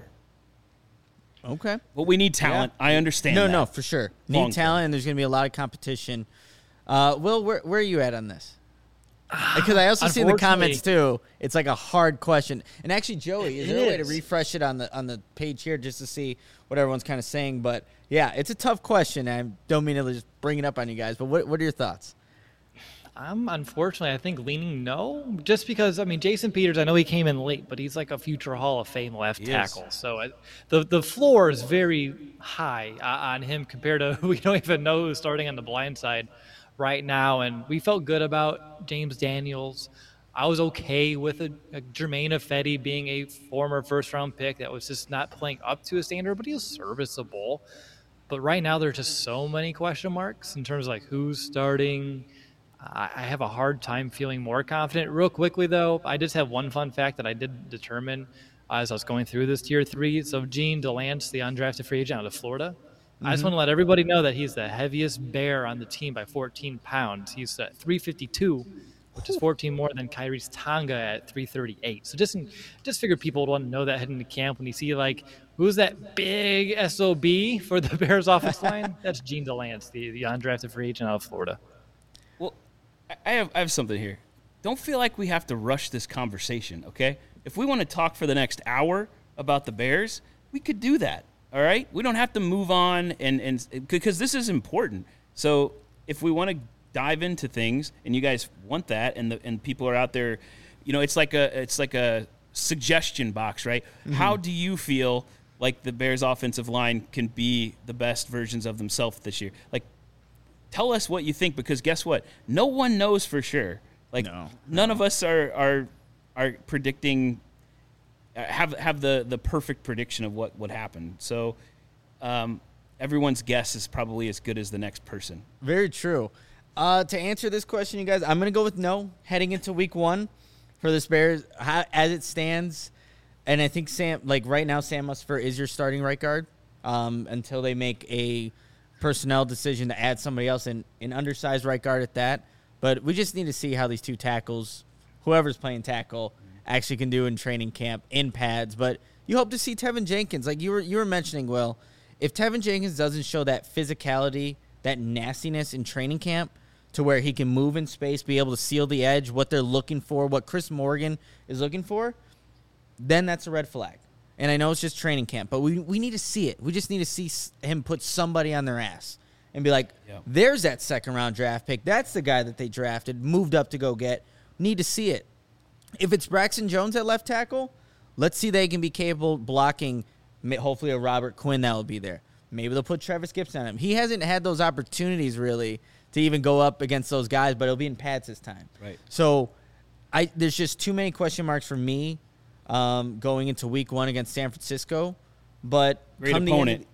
Okay. But we need talent. Yeah. I understand that. No, for sure. Need talent, and there's going to be a lot of competition. Will, where are you at on this? Because I also see in the comments, too, it's like a hard question. And actually, Joey, is there a way to refresh it on the page here just to see what everyone's kind of saying? But, yeah, it's a tough question. I don't mean to just bring it up on you guys, but what are your thoughts? I'm unfortunately, I think, leaning no, just because, I mean, Jason Peters, I know he came in late, but he's like a future Hall of Fame left tackle. So the floor is very high on him compared to who we don't even know who's starting on the blind side right now. And we felt good about James Daniels. I was okay with a Jermaine Ifedi being a former first-round pick that was just not playing up to a standard, but he was serviceable. But right now, there's just so many question marks in terms of like who's starting. I have a hard time feeling more confident. Real quickly, though, I just have one fun fact that I did determine as I was going through this Tier 3. So Gene Delance, the undrafted free agent out of Florida, I just want to let everybody know that he's the heaviest bear on the team by 14 pounds. He's at 352, which is 14 more than Kyrie's Tonga at 338. So just figured people would want to know that heading to camp when you see, like, who's that big SOB for the Bears offense line? That's Gene Delance, the undrafted free agent out of Florida. I have something here. Don't feel like we have to rush this conversation, okay? If we want to talk for the next hour about the Bears, we could do that, all right? We don't have to move on and because this is important. So if we want to dive into things and you guys want that and people are out there, you know, it's like a suggestion box, right? Mm-hmm. How do you feel like the Bears offensive line can be the best versions of themselves this year? Like, tell us what you think, because guess what? No one knows for sure. Like, none of us are predicting, have the perfect prediction of what would happen. So everyone's guess is probably as good as the next person. Very true. To answer this question, you guys, I'm going to go with no heading into week 1 for this Bears as it stands. And I think right now, Sam Mustipher is your starting right guard until they make a personnel decision to add somebody else in an undersized right guard at that. But we just need to see how these two tackles, whoever's playing tackle, actually can do in training camp in pads. But you hope to see Tevin Jenkins, like you were mentioning, Will. If Tevin Jenkins doesn't show that physicality, that nastiness in training camp to where he can move in space, be able to seal the edge, what they're looking for, what Chris Morgan is looking for, then that's a red flag. And I know it's just training camp, but we need to see it. We just need to see him put somebody on their ass and be like, there's that second-round draft pick. That's the guy that they drafted, moved up to go get. Need to see it. If it's Braxton Jones at left tackle, let's see they can be capable of blocking, hopefully a Robert Quinn that will be there. Maybe they'll put Travis Gibson on him. He hasn't had those opportunities, really, to even go up against those guys, but it'll be in pads this time. Right. So there's just too many question marks for me. Going into week 1 against San Francisco, but great opponent.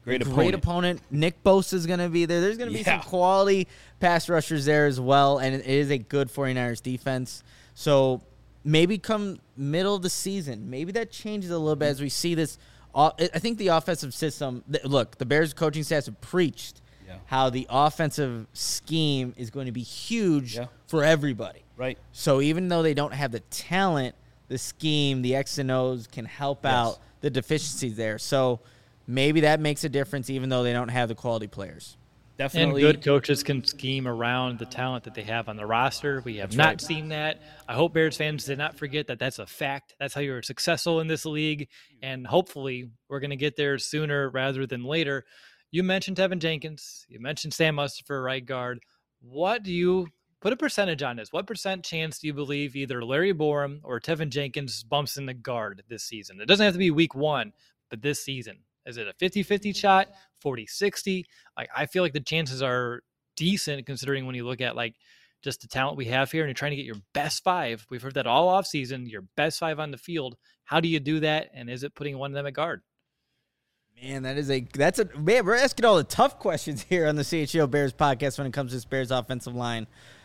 Nick Bosa is going to be there. There's going to be some quality pass rushers there as well, and it is a good 49ers defense. So maybe come middle of the season, maybe that changes a little bit as we see this. I think the offensive system. Look, the Bears coaching staff have preached how the offensive scheme is going to be huge for everybody. Right. So even though they don't have the talent, the scheme, the X and O's can help out the deficiencies there. So maybe that makes a difference even though they don't have the quality players. definitely. And good coaches can scheme around the talent that they have on the roster. We have not seen that. I hope Bears fans did not forget that that's a fact. That's how you're successful in this league. And hopefully we're going to get there sooner rather than later. You mentioned Tevin Jenkins. You mentioned Sam Mustipher, right guard. What do you put a percentage on this? What percent chance do you believe either Larry Borum or Tevin Jenkins bumps in the guard this season? It doesn't have to be week 1, but this season. Is it a 50-50 shot, 40-60? Like, I feel like the chances are decent considering when you look at like just the talent we have here and you're trying to get your best 5. We've heard that all off season, your best 5 on the field. How do you do that? And is it putting one of them at guard? Man, man, we're asking all the tough questions here on the CHGO Bears podcast when it comes to this Bears offensive line.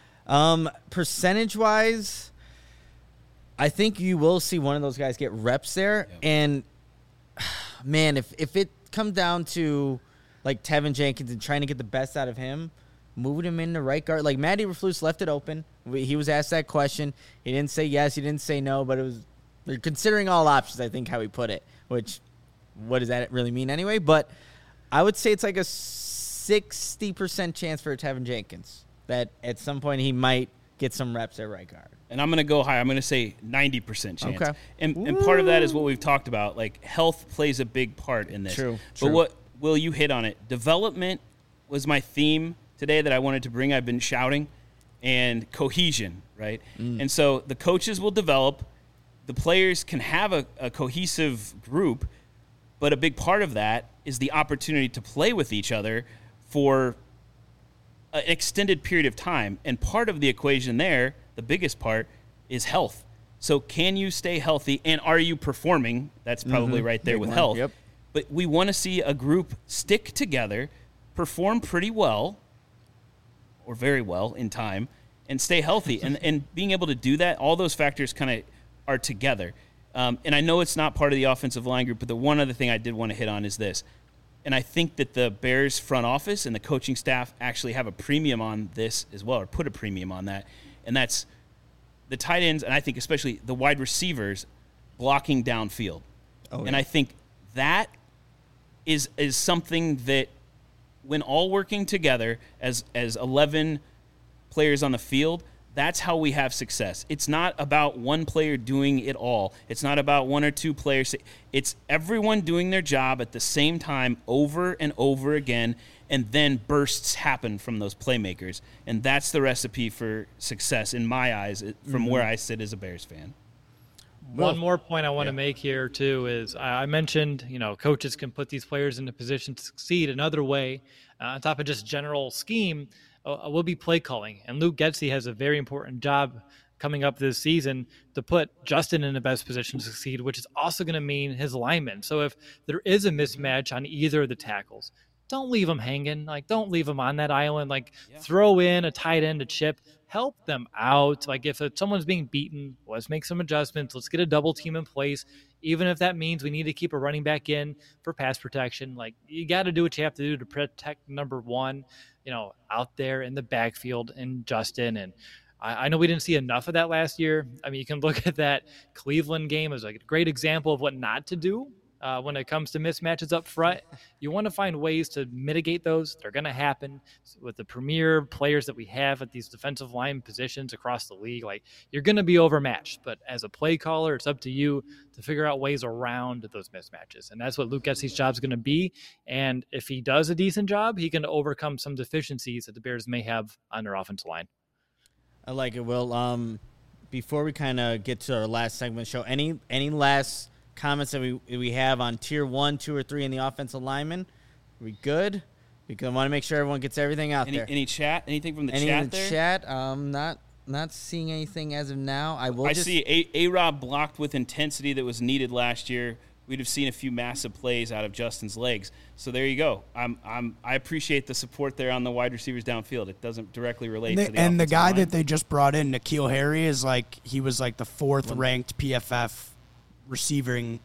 Percentage-wise, I think you will see one of those guys get reps there. Yep. And, man, if it comes down to, like, Tevin Jenkins and trying to get the best out of him, moving him into right guard. Like, Matt Eberflus left it open. He was asked that question. He didn't say yes. He didn't say no. But they're considering all options, I think, how he put it, which – what does that really mean anyway? But I would say it's like a 60% chance for Tevin Jenkins that at some point he might get some reps at right guard. And I'm going to go high. I'm going to say 90% chance. Okay. And part of that is what we've talked about. Like, health plays a big part in this. True. But what, Will, you hit on it. Development was my theme today that I wanted to bring. I've been shouting. And cohesion, right? And so the coaches will develop. The players can have a cohesive group. But a big part of that is the opportunity to play with each other for an extended period of time. And part of the equation there, the biggest part, is health. So can you stay healthy, and are you performing? That's probably right there with health. Yep. But we want to see a group stick together, perform pretty well, or very well in time, and stay healthy. and being able to do that, all those factors kind of are together. And I know it's not part of the offensive line group, but the one other thing I did want to hit on is this. And I think that the Bears front office and the coaching staff actually have a premium on this as well, or put a premium on that. And that's the tight ends, and I think especially the wide receivers blocking downfield. Oh, yeah. And I think that is something that when all working together as 11 players on the field, that's how we have success. It's not about one player doing it all. It's not about one or two players. It's everyone doing their job at the same time over and over again, and then bursts happen from those playmakers. And that's the recipe for success in my eyes from where I sit as a Bears fan. One more point I want to make here, too, is I mentioned, coaches can put these players in a position to succeed. Another way, on top of just general scheme, will be play calling. And Luke Getsy has a very important job coming up this season to put Justin in the best position to succeed, which is also going to mean his linemen. So if there is a mismatch on either of the tackles, don't leave them hanging. Like, don't leave them on that island. Like, throw in a tight end to chip. Help them out. Like, if someone's being beaten, let's make some adjustments. Let's get a double team in place. Even if that means we need to keep a running back in for pass protection. Like, you got to do what you have to do to protect number one, out there in the backfield and Justin. And I know we didn't see enough of that last year. I mean, you can look at that Cleveland game as like a great example of what not to do. When it comes to mismatches up front, you want to find ways to mitigate those. They're going to happen with the premier players that we have at these defensive line positions across the league. Like, you're going to be overmatched, but as a play caller, it's up to you to figure out ways around those mismatches. And that's what Luke Getsy's job is going to be. And if he does a decent job, he can overcome some deficiencies that the Bears may have on their offensive line. I like it, Will. Before we kind of get to our last segment of the show, any last comments that we have on tier 1, 2, or 3 in the offensive linemen? Are we good? Because I want to make sure everyone gets everything out there. Any chat? Anything from the chat there? Any in the chat? Not seeing anything as of now. I see A-Rob blocked with intensity that was needed last year. We'd have seen a few massive plays out of Justin's legs. So there you go. I appreciate the support there on the wide receivers downfield. It doesn't directly relate to the and the guy line that they just brought in, N'Keal Harry, he was like the 4th ranked PFF receiving,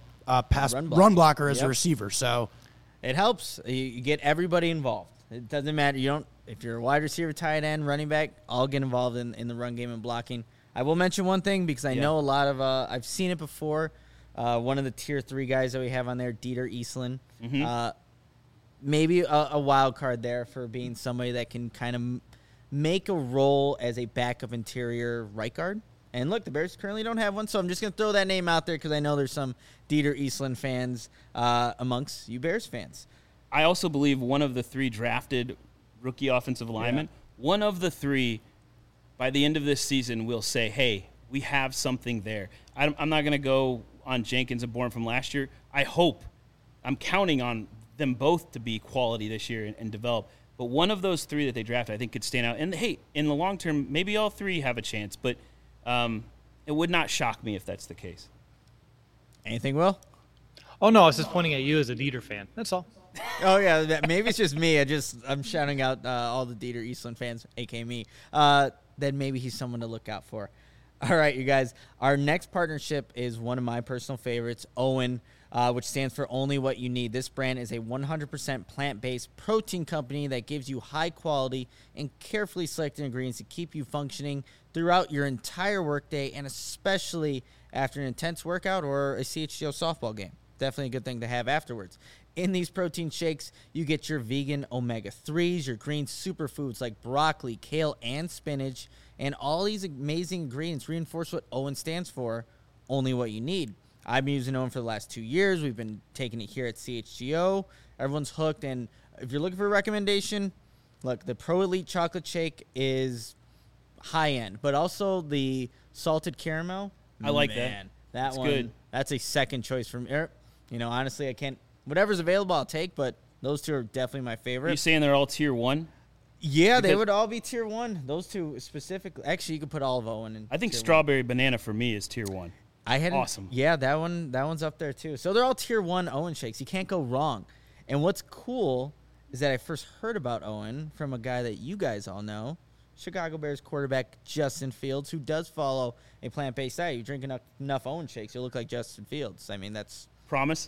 run blocker as a receiver. So it helps. You get everybody involved. It doesn't matter. If you're a wide receiver, tight end, running back, all get involved in the run game and blocking. I will mention one thing because I know a lot of I've seen it before. One of the tier 3 guys that we have on there, Dieter Eastland. maybe a wild card there for being somebody that can kind of make a role as a backup interior right guard. And look, the Bears currently don't have one, so I'm just going to throw that name out there because I know there's some Dieter Eastland fans amongst you Bears fans. I also believe one of the 3 drafted rookie offensive linemen, one of the 3 by the end of this season will say, hey, we have something there. I'm not going to go on Jenkins and Bourne from last year. I'm counting on them both to be quality this year and develop. But one of those 3 that they drafted, I think, could stand out. And, hey, in the long term, maybe all 3 have a chance. But it would not shock me if that's the case. Anything, Will? Oh, no, I was just pointing at you as a Dieter fan. That's all. Oh, yeah, maybe it's just me. I'm shouting out all the Dieter Eastland fans, a.k.a. me. Then maybe he's someone to look out for. All right, you guys. Our next partnership is one of my personal favorites, OWYN, which stands for Only What You Need. This brand is a 100% plant-based protein company that gives you high-quality and carefully selected ingredients to keep you functioning throughout your entire workday and especially after an intense workout or a CHGO softball game. Definitely a good thing to have afterwards. In these protein shakes, you get your vegan omega-3s, your green superfoods like broccoli, kale, and spinach, and all these amazing ingredients reinforce what OWYN stands for, only what you need. I've been using OWYN for the last 2 years. We've been taking it here at CHGO. Everyone's hooked, and if you're looking for a recommendation, look, the Pro Elite Chocolate Shake is high-end, but also the salted caramel. I like that. That's one, good. That's a second choice from honestly, I can't. Whatever's available, I'll take, but those 2 are definitely my favorite. Are you saying they're all tier 1? Yeah, they would all be tier 1. Those 2 specifically. Actually, you could put all of OWYN in. I think tier strawberry banana for me is tier 1. Awesome. Yeah, that one's up there too. So they're all tier 1 OWYN shakes. You can't go wrong. And what's cool is that I first heard about OWYN from a guy that you guys all know, Chicago Bears quarterback Justin Fields, who does follow a plant-based diet. You drink enough OWYN shakes, you'll look like Justin Fields. I mean, that's promise.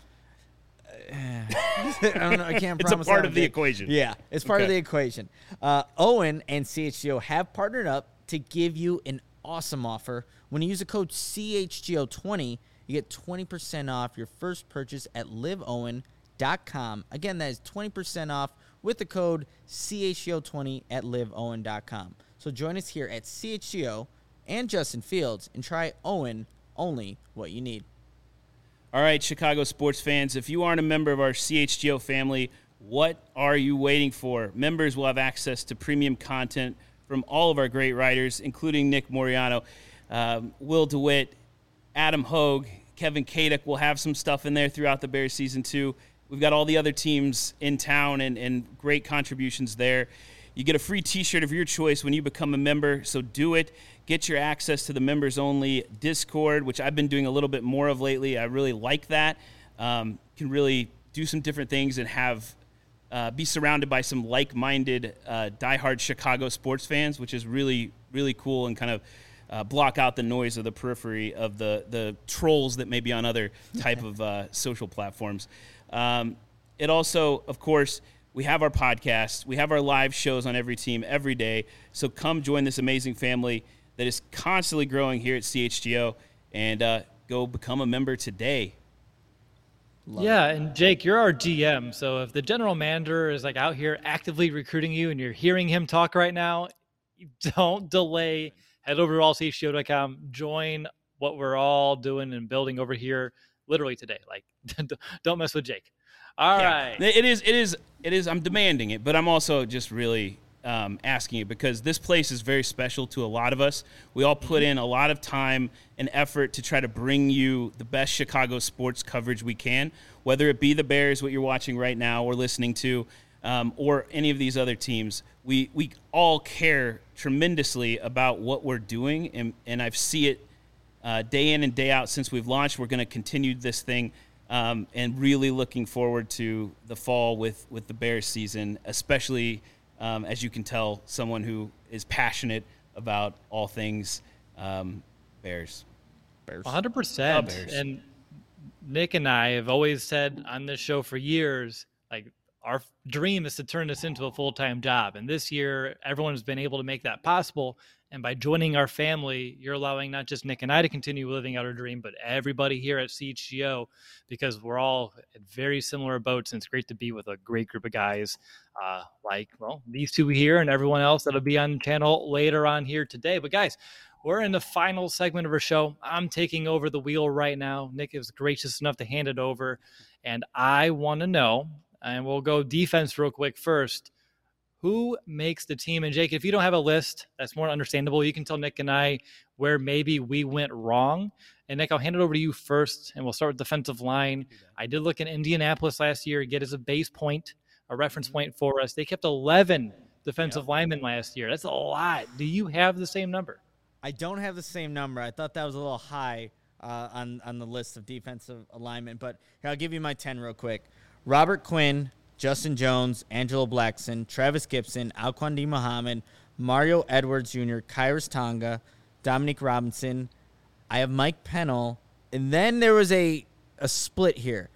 I don't know. I can't promise. It's a part of the equation. Yeah, it's part of the equation. OWYN and CHGO have partnered up to give you an awesome offer. When you use the code CHGO20, you get 20% off your first purchase at liveowyn.com. Again, that is 20% off with the code CHGO20 at liveowyn.com. So join us here at CHGO and Justin Fields and try OWYN, only what you need. All right, Chicago sports fans, if you aren't a member of our CHGO family, what are you waiting for? Members will have access to premium content from all of our great writers, including Nick Moriano, Will DeWitt, Adam Hogue, Kevin Kadek will have some stuff in there throughout the Bears season 2. We've got all the other teams in town and great contributions there. You get a free T-shirt of your choice when you become a member, so do it. Get your access to the members-only Discord, which I've been doing a little bit more of lately. I really like that. Can really do some different things and have be surrounded by some like-minded, diehard Chicago sports fans, which is really, really cool and kind of block out the noise of the periphery of the trolls that may be on other type of social platforms. It also, of course, we have our podcast. We have our live shows on every team every day. So come join this amazing family that is constantly growing here at CHGO and go become a member today. And Jake, you're our GM. So if the general manager is like out here actively recruiting you and you're hearing him talk right now, don't delay. Head over to allchgo.com. Join what we're all doing and building over here literally today. Like, don't mess with Jake. All right. It is. I'm demanding it, but I'm also just really asking it because this place is very special to a lot of us. We all put in a lot of time and effort to try to bring you the best Chicago sports coverage we can, whether it be the Bears, what you're watching right now or listening to, or any of these other teams. We all care tremendously about what we're doing, and I see it day in and day out since we've launched. We're going to continue this thing. And really looking forward to the fall with the Bears season, especially, as you can tell, someone who is passionate about all things Bears. 100%. Bears. And Nick and I have always said on this show for years, like, our dream is to turn this into a full-time job. And this year, everyone's been able to make that possible. And by joining our family, you're allowing not just Nick and I to continue living out our dream, but everybody here at CHGO, because we're all in very similar boats. And it's great to be with a great group of guys these two here and everyone else that'll be on the channel later on here today. But guys, we're in the final segment of our show. I'm taking over the wheel right now. Nick is gracious enough to hand it over. And I want to know, and we'll go defense real quick first, who makes the team? And Jake, if you don't have a list, that's more understandable. You can tell Nick and I where maybe we went wrong. And Nick, I'll hand it over to you first, and we'll start with defensive line. I did look in Indianapolis last year, get as a base point, a reference point for us. They kept 11 defensive linemen last year. That's a lot. Do you have the same number? I don't have the same number. I thought that was a little high on the list of defensive alignment, but here, I'll give you my 10 real quick. Robert Quinn, Justin Jones, Angelo Blackson, Travis Gibson, Alquan D. Muhammad, Mario Edwards Jr., Kairos Tonga, Dominique Robinson. I have Mike Pennell. And then there was a split here.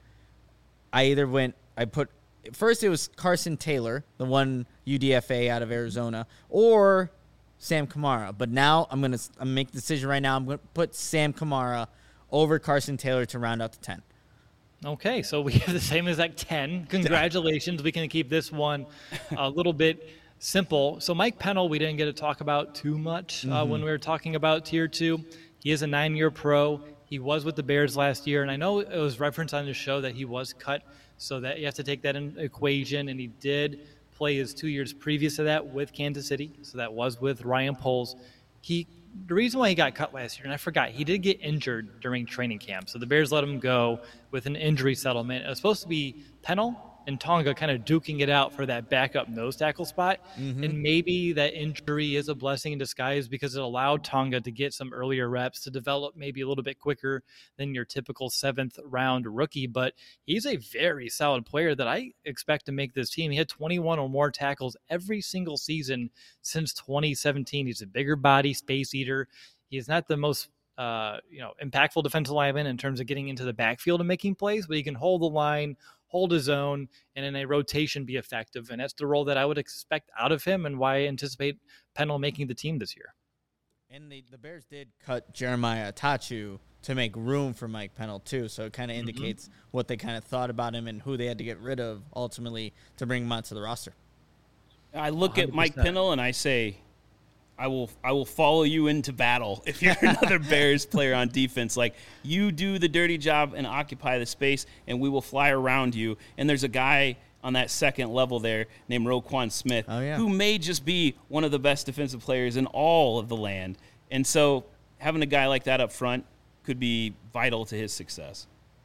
First it was Carson Taylor, the one UDFA out of Arizona, or Sam Kamara. But now I'm going to make the decision right now. I'm going to put Sam Kamara over Carson Taylor to round out the 10. Okay, so we have the same exact 10. Congratulations. We can keep this one a little bit simple. So Mike Pennell, we didn't get to talk about too much when we were talking about Tier 2. He is a 9-year pro. He was with the Bears last year, and I know it was referenced on the show that he was cut, so that you have to take that in equation, and he did play his 2 years previous to that with Kansas City, so that was with Ryan Poles. The reason why he got cut last year, and I forgot, he did get injured during training camp. So the Bears let him go with an injury settlement. It was supposed to be Pennell and Tonga kind of duking it out for that backup nose tackle spot. And maybe that injury is a blessing in disguise because it allowed Tonga to get some earlier reps, to develop maybe a little bit quicker than your typical 7th round rookie. But he's a very solid player that I expect to make this team. He had 21 or more tackles every single season since 2017. He's a bigger body, space eater. He's not the most impactful defensive lineman in terms of getting into the backfield and making plays, but he can hold the line, hold his own, and in a rotation be effective. And that's the role that I would expect out of him and why I anticipate Pennell making the team this year. And the Bears did cut Jeremiah Atachu to make room for Mike Pennell too, so it kind of indicates what they kind of thought about him and who they had to get rid of ultimately to bring him onto the roster. I look 100%. At Mike Pennell and I say, I will follow you into battle if you're another Bears player on defense. Like, you do the dirty job and occupy the space, and we will fly around you. And there's a guy on that second level there named Roquan Smith, who may just be one of the best defensive players in all of the land. And so having a guy like that up front could be vital to his success.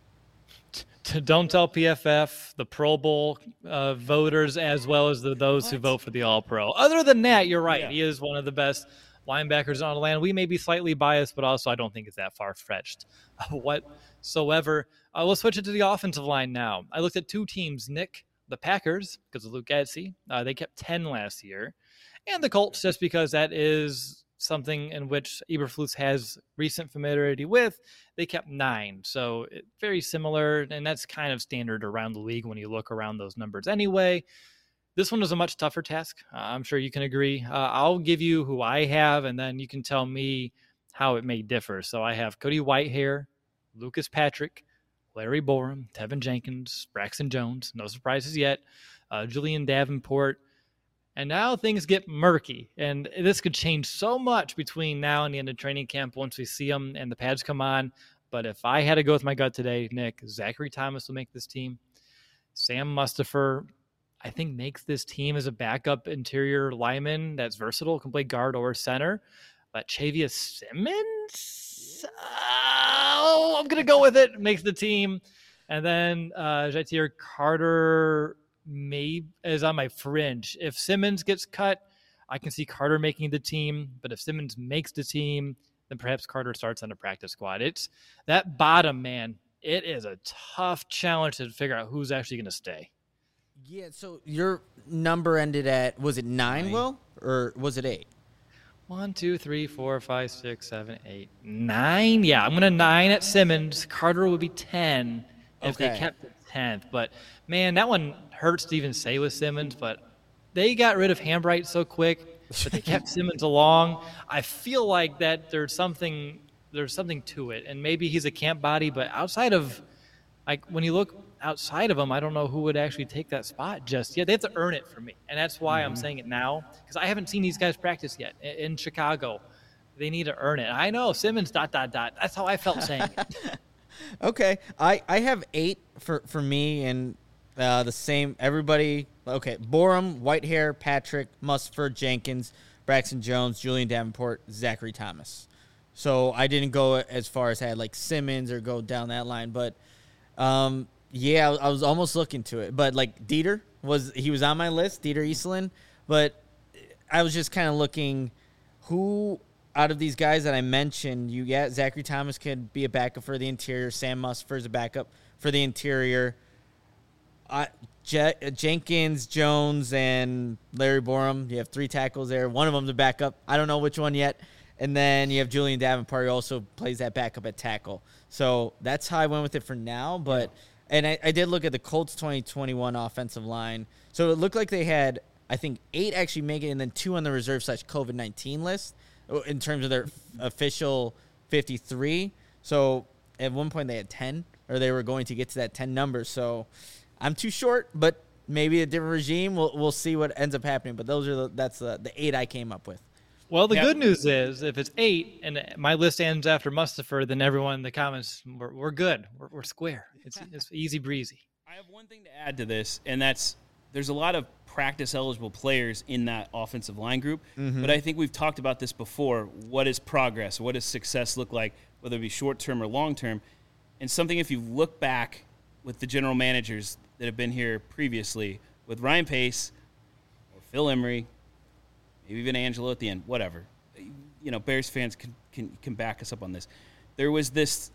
Don't tell PFF, the Pro Bowl voters, as well as those who vote for the All-Pro. Other than that, you're right. Yeah. He is one of the best linebackers on the land. We may be slightly biased, but also I don't think it's that far-fetched whatsoever. Let's switch it to the offensive line now. I looked at two teams, Nick, the Packers, because of Luke Getsy. They kept 10 last year. And the Colts, just because that is something in which Eberflus has recent familiarity with. They kept 9. So very similar, and that's kind of standard around the league when you look around those numbers anyway. This one was a much tougher task. I'm sure you can agree. I'll give you who I have, and then you can tell me how it may differ. So I have Cody Whitehair, Lucas Patrick, Larry Borum, Tevin Jenkins, Braxton Jones, no surprises yet, Julian Davenport. And now things get murky, and this could change so much between now and the end of training camp once we see them and the pads come on. But if I had to go with my gut today, Nick, Zachary Thomas will make this team. Sam Mustipher, I think, makes this team as a backup interior lineman that's versatile, can play guard or center. But Chavius Simmons, I'm going to go with it, makes the team. And then Jatir Carter is on my fringe. If Simmons gets cut, I can see Carter making the team. But if Simmons makes the team, then perhaps Carter starts on the practice squad. It's that bottom, man. It is a tough challenge to figure out who's actually going to stay. Yeah, so your number ended at, was it 9, Will? Or was it 8? 1, 2, 3, 4, 5, 6, 7, 8, 9. Yeah, I'm going to 9 at Simmons. Carter would be 10 if they kept it 10th. But, man, that one hurts to even say with Simmons, but they got rid of Hambright so quick, but they kept Simmons along. I feel like that there's something to it, and maybe he's a camp body, but outside of, like, when you look outside of him, I don't know who would actually take that spot just yet. They have to earn it for me, and that's why I'm saying it now, because I haven't seen these guys practice yet in Chicago. They need to earn it. I know Simmons ... That's how I felt saying it. Okay, I have 8 for me, and the same everybody. Okay, Borum, Whitehair, Patrick, Musford, Jenkins, Braxton Jones, Julian Davenport, Zachary Thomas. So I didn't go as far as I had like Simmons or go down that line, but yeah, I was almost looking to it. But like Dieter was on my list, Dieter Eastlund, but I was just kind of looking who out of these guys that I mentioned, Zachary Thomas could be a backup for the interior. Sam Musford is a backup for the interior. Jenkins, Jones, and Larry Borum. You have 3 tackles there. One of them's a backup. I don't know which one yet. And then you have Julian Davenport, who also plays that backup at tackle. So that's how I went with it for now. But and I did look at the Colts 2021 offensive line. So it looked like they had, I think, 8 actually make it, and then 2 on the reserve /COVID-19 list in terms of their official 53. So at one point they had 10, or they were going to get to that 10 number. So I'm too short, but maybe a different regime. We'll see what ends up happening. But that's the 8 I came up with. Well, the good news is if it's 8 and my list ends after Mustapher, then everyone in the comments, we're good. We're square. It's easy breezy. I have one thing to add to this, and that's there's a lot of practice-eligible players in that offensive line group, but I think we've talked about this before. What is progress? What does success look like, whether it be short-term or long-term? And something, if you look back with the general managers that have been here previously, with Ryan Pace or Phil Emery, maybe even Angelo at the end, whatever. You know, Bears fans can back us up on this. There was this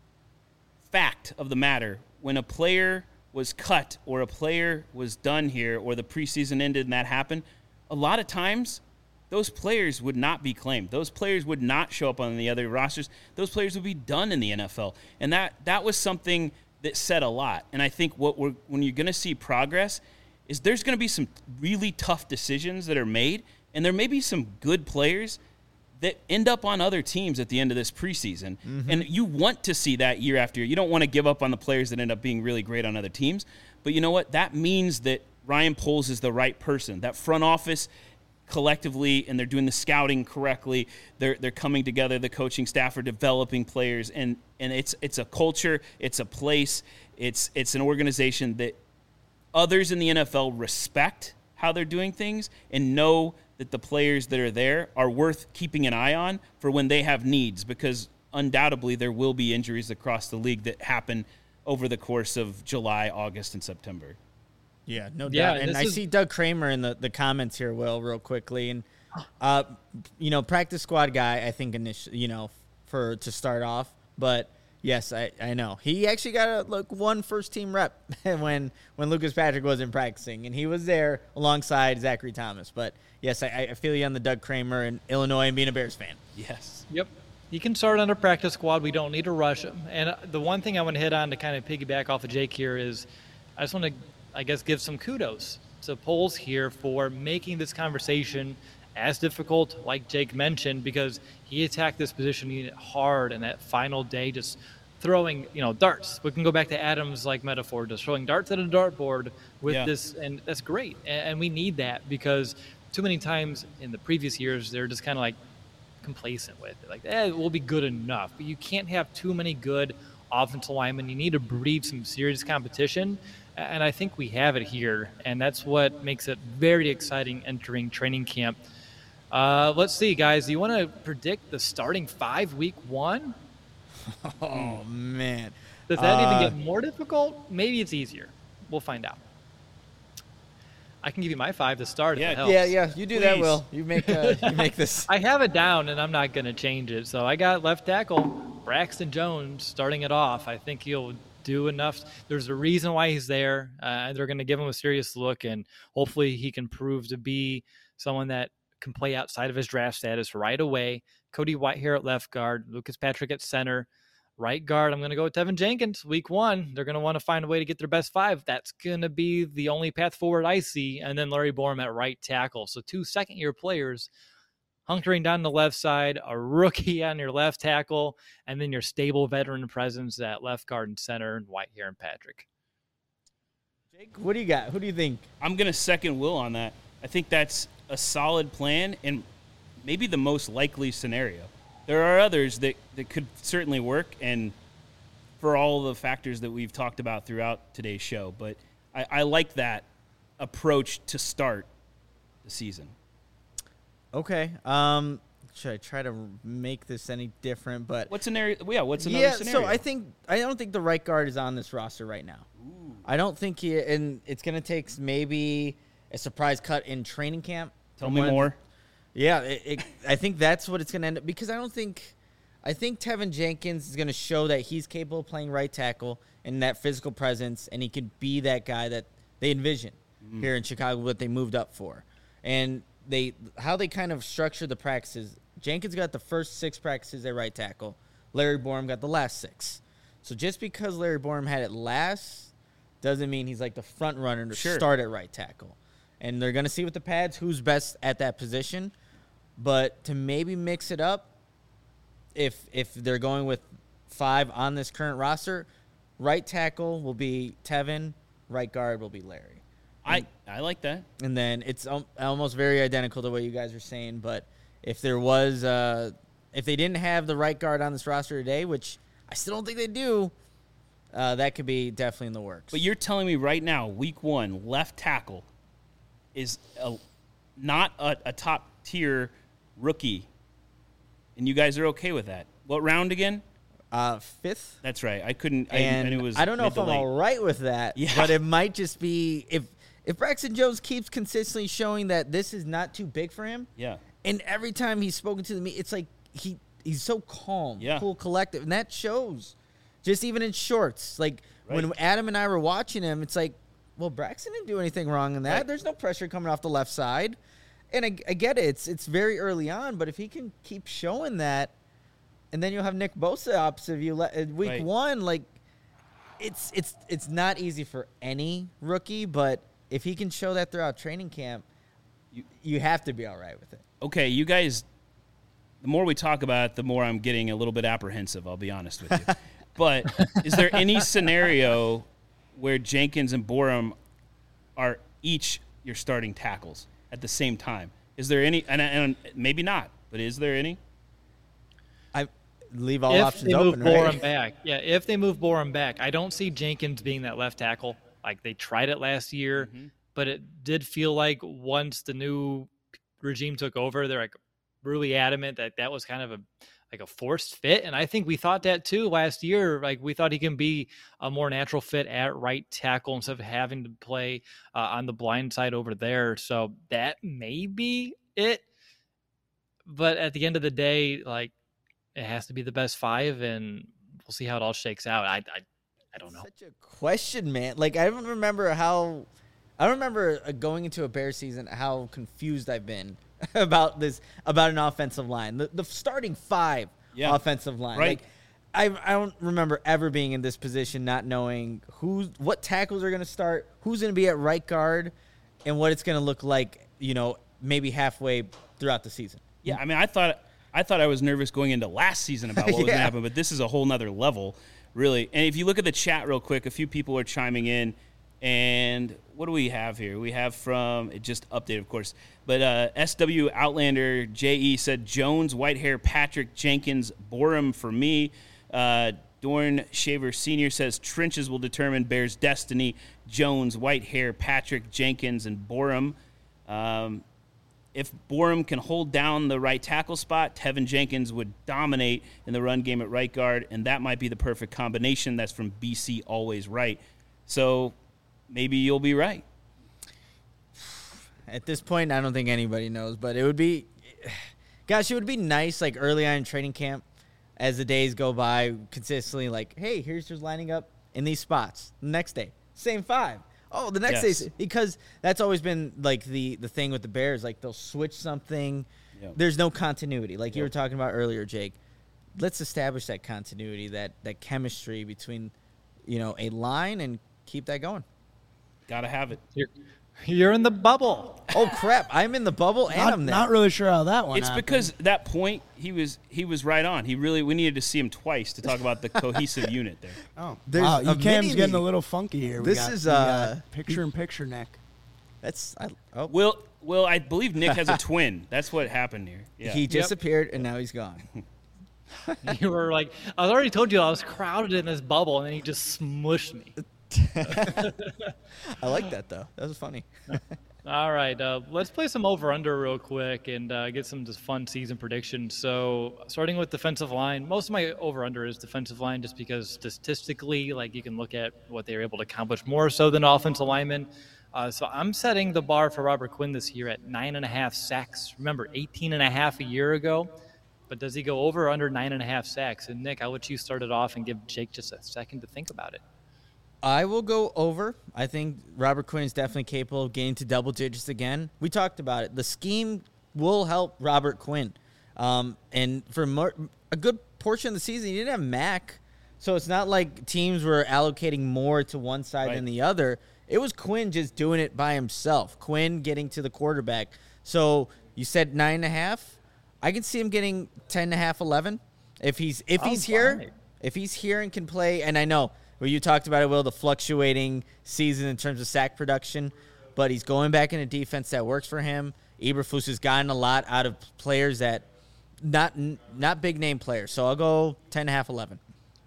fact of the matter. When a player was cut or a player was done here or the preseason ended and that happened, a lot of times those players would not be claimed. Those players would not show up on the other rosters. Those players would be done in the NFL. And that was something that said a lot. And I think when you're going to see progress is there's going to be some really tough decisions that are made, and there may be some good players that end up on other teams at the end of this preseason. And you want to see that year after year. You don't want to give up on the players that end up being really great on other teams. But you know what? That means that Ryan Poles is the right person. That front office collectively, and they're doing the scouting correctly. They're coming together. The coaching staff are developing players. And it's a culture. It's a place. It's an organization that others in the NFL respect how they're doing things and know that the players that are there are worth keeping an eye on for when they have needs, because undoubtedly there will be injuries across the league that happen over the course of July, August, and September. Yeah, no doubt. And I see Doug Kramer in the comments here, Will, real quickly. And, practice squad guy, I think, initially, to start off. But, yes, I know. He actually got one first-team rep when Lucas Patrick wasn't practicing, and he was there alongside Zachary Thomas. But, yes, I feel you on the Doug Kramer in Illinois and being a Bears fan. Yes. Yep. He can start on a practice squad. We don't need to rush him. And the one thing I want to hit on to kind of piggyback off of Jake here is I just want to, give some kudos to Poles here for making this conversation as difficult, like Jake mentioned, because he attacked this position unit hard in that final day, just throwing, darts. We can go back to Adam's metaphor, just throwing darts at a dartboard with this, and that's great. And we need that because too many times in the previous years, they're just kind of complacent with it. We'll be good enough. But you can't have too many good offensive linemen. You need to breed some serious competition. And I think we have it here. And that's what makes it very exciting entering training camp. Let's see, guys. Do you want to predict the starting 5 week 1? Oh, man. Does that even get more difficult? Maybe it's easier. We'll find out. I can give you my 5 to start. If it helps. Yeah. You do that, Will. You make this. I have it down, and I'm not going to change it. So I got left tackle Braxton Jones starting it off. I think he'll do enough. There's a reason why he's there. They're going to give him a serious look, and hopefully he can prove to be someone that can play outside of his draft status right away. Cody Whitehair at left guard, Lucas Patrick at center. Right guard, I'm going to go with Tevin Jenkins. Week 1, they're going to want to find a way to get their best 5. That's going to be the only path forward I see. And then Larry Borom at right tackle. So 2 second-year players hunkering down the left side, a rookie on your left tackle, and then your stable veteran presence at left guard and center, and Whitehair and Patrick. Jake, what do you got? Who do you think? I'm going to second Will on that. I think that's a solid plan and maybe the most likely scenario. There are others that could certainly work, and for all the factors that we've talked about throughout today's show. But I like that approach to start the season. Okay. Should I try to make this any different? But what's another scenario? So I don't think the right guard is on this roster right now. Ooh. I don't think and it's going to take maybe a surprise cut in training camp. Tell me more. Yeah, I think that's what it's going to end up, because I think Tevin Jenkins is going to show that he's capable of playing right tackle and that physical presence, and he could be that guy that they envision here in Chicago, what they moved up for. And how they kind of structure the practices, Jenkins got the first 6 practices at right tackle. Larry Borom got the last 6. So just because Larry Borom had it last doesn't mean he's like the front runner to start at right tackle. And they're going to see with the pads who's best at that position. But to maybe mix it up, if they're going with 5 on this current roster, right tackle will be Tevin, right guard will be Larry. I like that. And then it's almost very identical to what you guys are saying. But if there was, if they didn't have the right guard on this roster today, which I still don't think they do, that could be definitely in the works. But you're telling me right now, week 1, left tackle is not a top-tier rookie, and you guys are okay with that. What round again? 5th. That's right. I couldn't. And I knew it was. I don't know if I'm all right with that. Yeah. But it might just be if Braxton Jones keeps consistently showing that this is not too big for him. Yeah. And every time he's spoken to me, it's like he's so calm, cool, collective, and that shows. Just even in shorts, like when Adam and I were watching him, it's like, well, Braxton didn't do anything wrong in that. Right. There's no pressure coming off the left side. And I get it. It's very early on, but if he can keep showing that, and then you'll have Nick Bosa opposite of you week 1, like it's not easy for any rookie, but if he can show that throughout training camp, you have to be all right with it. Okay, you guys, the more we talk about it, the more I'm getting a little bit apprehensive, I'll be honest with you. But is there any scenario where Jenkins and Borom are each your starting tackles at the same time? Is there any, and maybe not, but is there any? I leave all options open, right? If they move Borom back, I don't see Jenkins being that left tackle. Like they tried it last year, but it did feel like once the new regime took over, they're like really adamant that was kind of a forced fit. And I think we thought that too last year. Like we thought he can be a more natural fit at right tackle instead of having to play on the blind side over there. So that may be it. But at the end of the day, like it has to be the best 5, and we'll see how it all shakes out. I don't know. Such a question, man. Like I don't remember going into a Bears season how confused I've been about an offensive line. The starting 5 offensive line. Right. Like I don't remember ever being in this position not knowing what tackles are going to start, who's going to be at right guard, and what it's going to look like, maybe halfway throughout the season. Yeah, I mean, I thought I was nervous going into last season about what was going to happen, but this is a whole nother level, really. And if you look at the chat real quick, a few people are chiming in. And what do we have here? We have it just updated, of course. But SW Outlander JE said Jones, Whitehair, Patrick, Jenkins, Borom for me. Dorn Shaver Sr. says trenches will determine Bears' destiny. Jones, Whitehair, Patrick, Jenkins, and Borom. If Borom can hold down the right tackle spot, Tevin Jenkins would dominate in the run game at right guard, and that might be the perfect combination. That's from BC Always Right. So maybe you'll be right. At this point, I don't think anybody knows, but it would be nice, like early on in training camp, as the days go by, consistently like, hey, here's who's lining up in these spots. The next day, same 5. Oh, the next day, because that's always been like the thing with the Bears, like they'll switch something. Yep. There's no continuity, like you were talking about earlier, Jake. let's establish that continuity, that chemistry between, a line, and keep that going. Gotta have it. You're in the bubble. Oh crap! I'm in the bubble, and I'm there. Not really sure how that one. It's happened. because that point he was right on. We needed to see him twice to talk about the cohesive unit there. Oh, There's wow! a Cam's getting a little funky here. This is picture-in-picture, Nick. That's Will, I believe Nick has a twin. That's what happened here. Yeah. He disappeared, and now he's gone. You were like, I already told you I was crowded in this bubble, and then he just smushed me. I like that though. That was funny. All right, let's play some over/under real quick and get some just fun season predictions. So, starting with defensive line, most of my over/under is defensive line, just because statistically, like, you can look at what they were able to accomplish more so than offensive linemen. So I'm setting the bar for Robert Quinn this year at 9.5 sacks. Remember, 18.5 a year ago. But does he go over or under 9.5 sacks? And Nick, I'll let you start it off and give Jake just a second to think about it. I will go over. I think Robert Quinn is definitely capable of getting to double digits again. We talked about it. The scheme will help Robert Quinn. And for a good portion of the season, he didn't have Mack. So it's not like teams were allocating more to one side than the other. It was Quinn just doing it by himself. Quinn getting to the quarterback. So you said 9.5. I can see him getting 10.5, 11. If he's here, if he's here and can play, and I know you talked about it, Will, the fluctuating season in terms of sack production, but he's going back in a defense that works for him. Eberflus has gotten a lot out of players that not big name players. So I'll go 10.5, 11.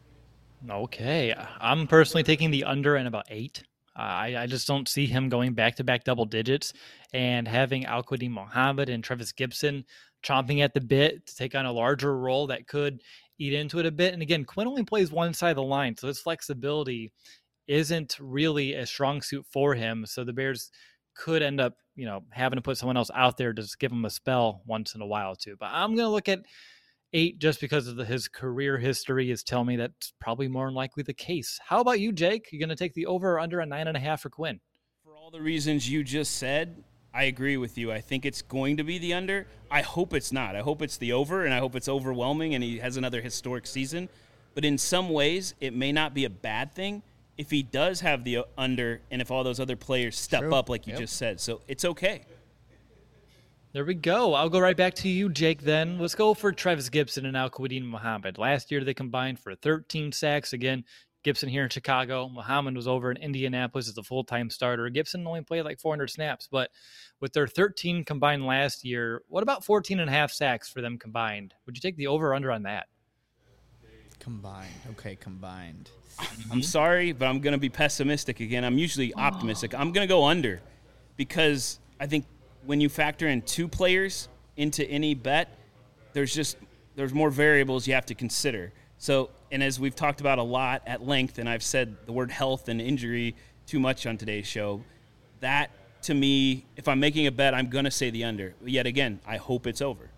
Okay, I'm personally taking the under and about 8. I just don't see him going back-to-back double digits and having Al-Quadin Muhammad and Travis Gibson chomping at the bit to take on a larger role that could eat into it a bit. And again, Quinn only plays one side of the line, so his flexibility isn't really a strong suit for him. So the Bears could end up, having to put someone else out there to just give him a spell once in a while too. But I'm going to look at 8 just because of his career history is telling me that's probably more than likely the case. How about you, Jake? You're going to take the over or under a 9.5 for Quinn? For all the reasons you just said, I agree with you. I think it's going to be the under. I hope it's not. I hope it's the over, and I hope it's overwhelming and he has another historic season. But in some ways, it may not be a bad thing if he does have the under and if all those other players step up like you just said. So it's okay. There we go. I'll go right back to you, Jake, then. Let's go for Travis Gibson and Al-Quadin Muhammad. Last year, they combined for 13 sacks. Again, Gibson here in Chicago. Muhammad was over in Indianapolis as a full-time starter. Gibson only played like 400 snaps, but with their 13 combined last year, what about 14.5 sacks for them combined? Would you take the over or under on that? Combined. Okay, combined. I'm sorry, but I'm going to be pessimistic again. I'm usually optimistic. I'm going to go under because I think when you factor in 2 players into any bet, there's more variables you have to consider. So, and as we've talked about a lot at length, and I've said the word health and injury too much on today's show, that to me, if I'm making a bet, I'm going to say the under. Yet again, I hope it's over.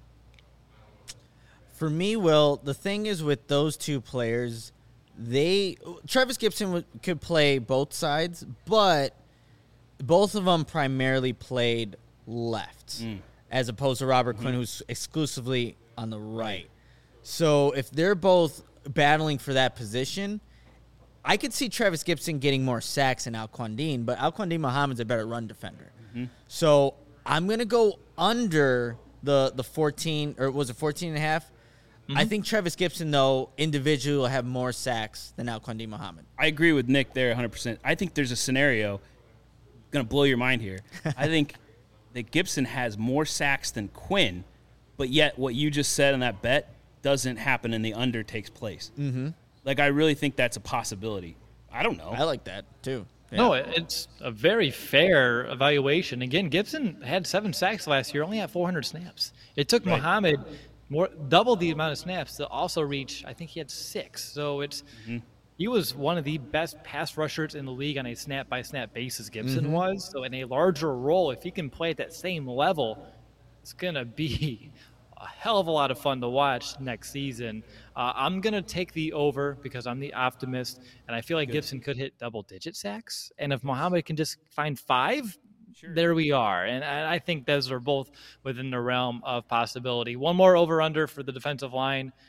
For me, Will, the thing is with those 2 players, Travis Gibson could play both sides, but both of them primarily played left, as opposed to Robert Quinn, who's exclusively on the right. So if they're both battling for that position, I could see Travis Gibson getting more sacks than Al-Quadin, but Al-Quadin Muhammad's a better run defender. So I'm going to go under the 14, or was it 14.5? I think Travis Gibson, though, individually will have more sacks than Al-Quadin Muhammad. I agree with Nick there 100%. I think there's a scenario, going to blow your mind here. I think that Gibson has more sacks than Quinn, but yet what you just said on that bet doesn't happen and the under takes place. Like, I really think that's a possibility. I don't know. I like that, too. Yeah. No, it's a very fair evaluation. Again, Gibson had 7 sacks last year, only had 400 snaps. It took Muhammad double the amount of snaps to also reach, I think he had 6. So he was one of the best pass rushers in the league on a snap-by-snap basis, Gibson was. So in a larger role, if he can play at that same level, it's going to be a hell of a lot of fun to watch next season. I'm going to take the over because I'm the optimist, and I feel like Gibson could hit double-digit sacks. And if Muhammad can just find 5, there we are. And I think those are both within the realm of possibility. One more over-under for the defensive line.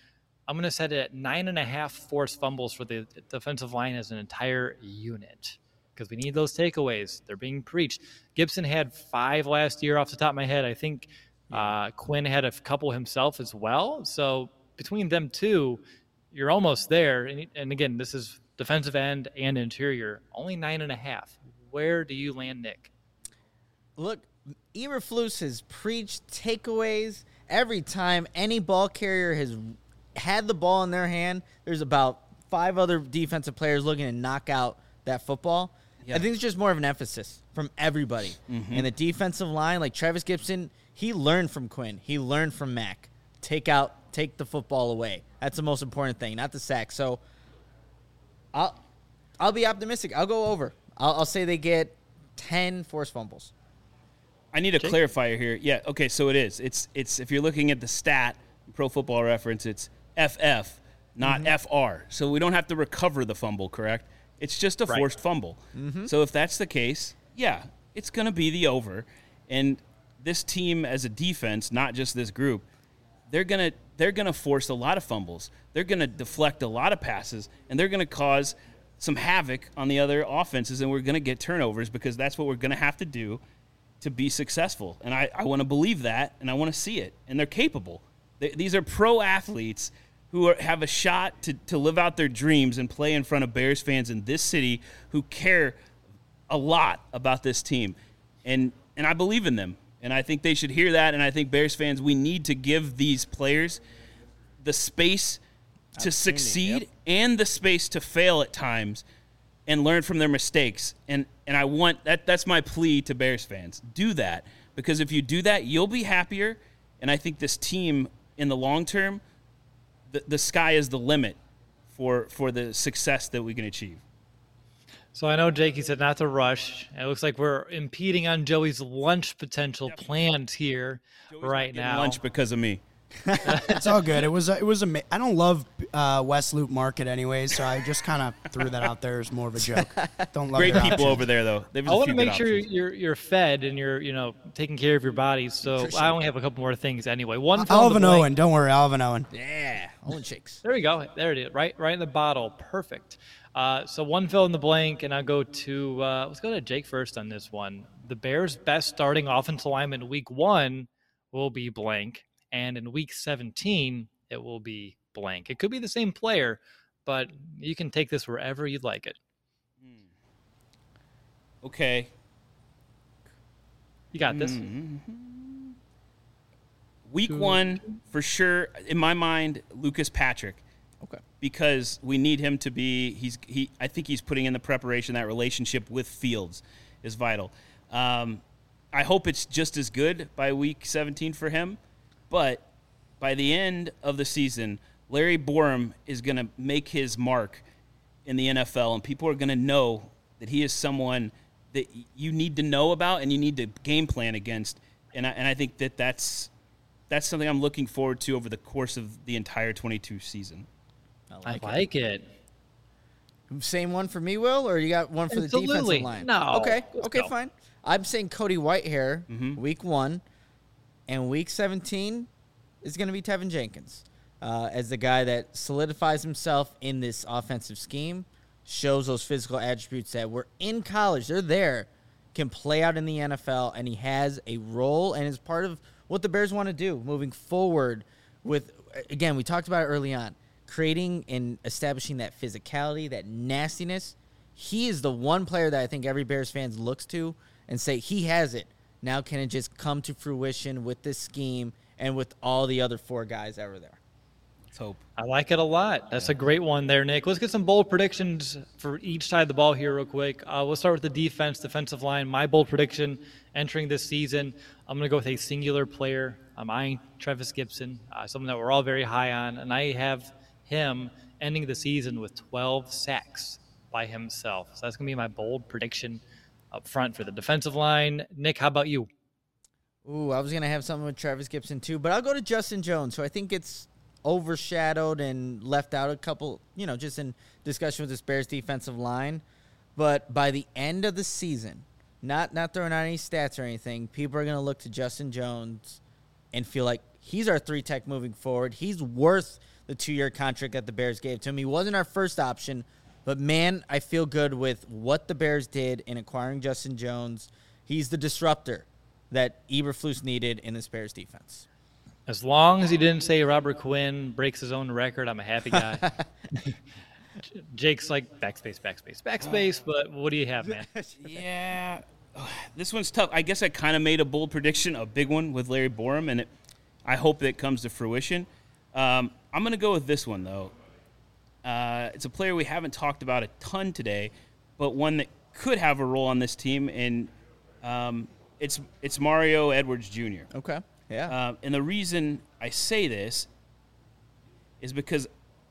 I'm going to set it at 9.5 forced fumbles for the defensive line as an entire unit because we need those takeaways. They're being preached. Gibson had 5 last year off the top of my head. I think Quinn had a couple himself as well. So between them two, you're almost there. And again, this is defensive end and interior. Only 9.5. Where do you land, Nick? Look, Eberflus has preached takeaways every time any ball carrier has had the ball in their hand. There's about 5 other defensive players looking to knock out that football. Yeah. I think it's just more of an emphasis from everybody. Mm-hmm. And the defensive line, like Travis Gibson, he learned from Quinn. He learned from Mack. Take the football away. That's the most important thing, not the sack. So I'll be optimistic. I'll go over. I'll say they get 10 forced fumbles. I need a clarifier here. Yeah, okay, so it is. It's if you're looking at the stat, Pro Football Reference, it's FF, not FR. So we don't have to recover the fumble, correct? It's just a forced fumble. Mm-hmm. So if that's the case, yeah, it's going to be the over. And this team as a defense, not just this group, they're going to force a lot of fumbles. They're going to deflect a lot of passes, and they're going to cause some havoc on the other offenses, and we're going to get turnovers because that's what we're going to have to do to be successful. And I want to believe that, and I want to see it. And they're capable. These are pro athletes who have a shot to live out their dreams and play in front of Bears fans in this city who care a lot about this team. And I believe in them. And I think they should hear that. And I think Bears fans, we need to give these players the space to succeed and the space to fail at times and learn from their mistakes. And I want that's my plea to Bears fans. Do that, because if you do that, you'll be happier. And I think this team in the long term, the sky is the limit for the success that we can achieve. So I know Jake, he said not to rush. It looks like we're impeding on Joey's lunch potential plans here right now. Lunch because of me. It's all good. It was I don't love West Loop Market anyways, so I just kind of threw that out there as more of a joke. Don't love great people options over there though. I want to make sure you're fed and you're taking care of your body. So I only have a couple more things anyway. I'll have an Owen. Don't worry, I'll have an Owen. Yeah, Owen shakes. There we go. There it is. Right in the bottle. Perfect. So one fill in the blank, and I'll go to let's go to Jake first on this one. The Bears' best starting offensive lineman in Week 1 will be blank. And in Week 17, it will be blank. It could be the same player, but you can take this wherever you'd like it. Okay. You got this. Week 1, for sure, in my mind, Lucas Patrick. Okay. Because we need him to be I think he's putting in the preparation. That relationship with Fields is vital. I hope it's just as good by Week 17 for him. But by the end of the season, Larry Borom is going to make his mark in the NFL, and people are going to know that he is someone that you need to know about and you need to game plan against. And I think that's something I'm looking forward to over the course of the entire 22 season. I like it. Same one for me, Will, or you got one for the defensive line? No. Okay, fine. I'm saying Cody Whitehair, Week 1. And Week 17 is going to be Tevin Jenkins as the guy that solidifies himself in this offensive scheme, shows those physical attributes that were in college. They're there, can play out in the NFL, and he has a role and is part of what the Bears want to do moving forward with, again, we talked about it early on, creating and establishing that physicality, that nastiness. He is the one player that I think every Bears fan looks to and say he has it. Now can it just come to fruition with this scheme and with all the other 4 guys that were there? Let's hope. I like it a lot. That's a great one there, Nick. Let's get some bold predictions for each side of the ball here real quick. We'll start with the defensive line. My bold prediction entering this season, I'm going to go with a singular player. I'm eyeing Travis Gibson, someone that we're all very high on, and I have him ending the season with 12 sacks by himself. So that's going to be my bold prediction up front for the defensive line. Nick, how about you? Ooh, I was going to have something with Travis Gibson too, but I'll go to Justin Jones, who I think it's overshadowed and left out a couple, just in discussion with this Bears defensive line. But by the end of the season, not throwing out any stats or anything, people are going to look to Justin Jones and feel like he's our 3-tech moving forward. He's worth the 2-year contract that the Bears gave to him. He wasn't our first option, but, man, I feel good with what the Bears did in acquiring Justin Jones. He's the disruptor that Eberflus needed in this Bears defense. As long as he didn't say Robert Quinn breaks his own record, I'm a happy guy. Jake's like backspace, but what do you have, man? Yeah, this one's tough. I guess I kind of made a bold prediction, a big one with Larry Borom, and I hope that it comes to fruition. I'm going to go with this one, though. It's a player we haven't talked about a ton today, but one that could have a role on this team, and it's Mario Edwards Jr. Okay, yeah. And the reason I say this is because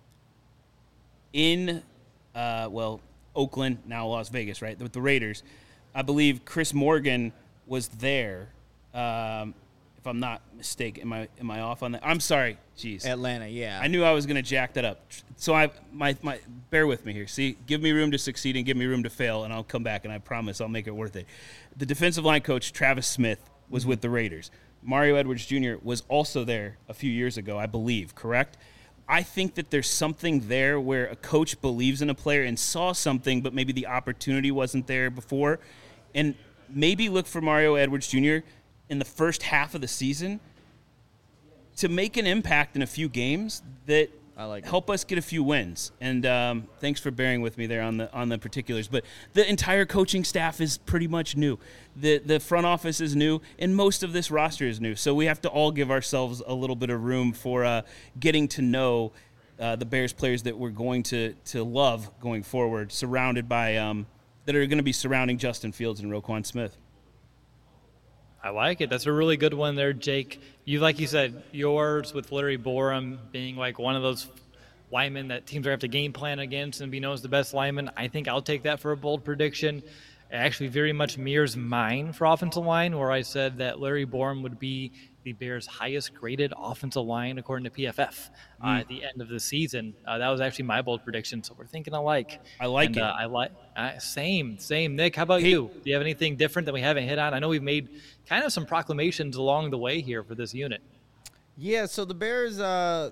in, Oakland, now Las Vegas, right, with the Raiders, I believe Chris Morgan was there. If I'm not mistaken, am I off on that? I'm sorry. Jeez. Atlanta, yeah. I knew I was going to jack that up. So bear with me here. See, give me room to succeed and give me room to fail, and I'll come back, and I promise I'll make it worth it. The defensive line coach, Travis Smith, was with the Raiders. Mario Edwards Jr. was also there a few years ago, I believe, correct? I think that there's something there where a coach believes in a player and saw something, but maybe the opportunity wasn't there before. And maybe look for Mario Edwards Jr. in the first half of the season to make an impact in a few games that help us get a few wins. And thanks for bearing with me there on the particulars. But the entire coaching staff is pretty much new. The front office is new, and most of this roster is new. So we have to all give ourselves a little bit of room for getting to know the Bears players that we're going to love going forward, surrounded by that are going to be surrounding Justin Fields and Roquan Smith. I like it. That's a really good one there, Jake. Like you said, yours with Larry Borom being like one of those linemen that teams are going to have to game plan against and be known as the best lineman. I think I'll take that for a bold prediction. It actually very much mirrors mine for offensive line, where I said that Larry Borom would be the Bears' highest graded offensive line according to PFF at the end of the season. That was actually my bold prediction, so we're thinking alike. I like it. Same. Nick, how about you? Do you have anything different that we haven't hit on? I know we've made kind of some proclamations along the way here for this unit. Yeah, so the Bears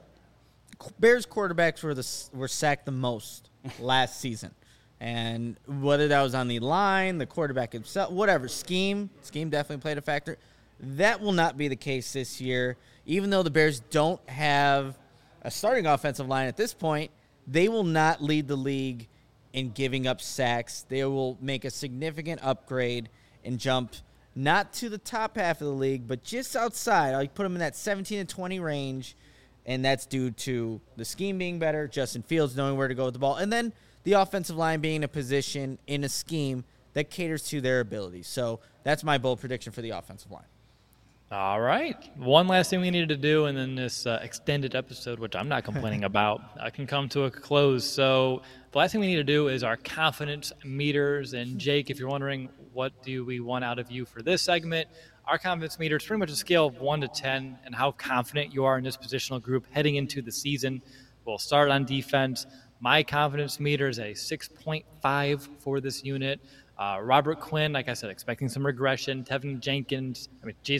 quarterbacks were sacked the most last season. And whether that was on the line, the quarterback himself, whatever, scheme definitely played a factor. That will not be the case this year. Even though the Bears don't have a starting offensive line at this point, they will not lead the league in giving up sacks. They will make a significant upgrade and jump not to the top half of the league, but just outside. I'll put them in that 17 to 20 range, and that's due to the scheme being better, Justin Fields knowing where to go with the ball, and then the offensive line being in a position, in a scheme that caters to their abilities. So that's my bold prediction for the offensive line. All right. One last thing we needed to do, and then this extended episode, which I'm not complaining about, can come to a close. So the last thing we need to do is our confidence meters. And Jake, if you're wondering what do we want out of you for this segment, our confidence meter is pretty much a scale of 1 to 10 and how confident you are in this positional group heading into the season. We'll start on defense. My confidence meter is a 6.5 for this unit. Robert Quinn, like I said, expecting some regression. Tevin Jenkins,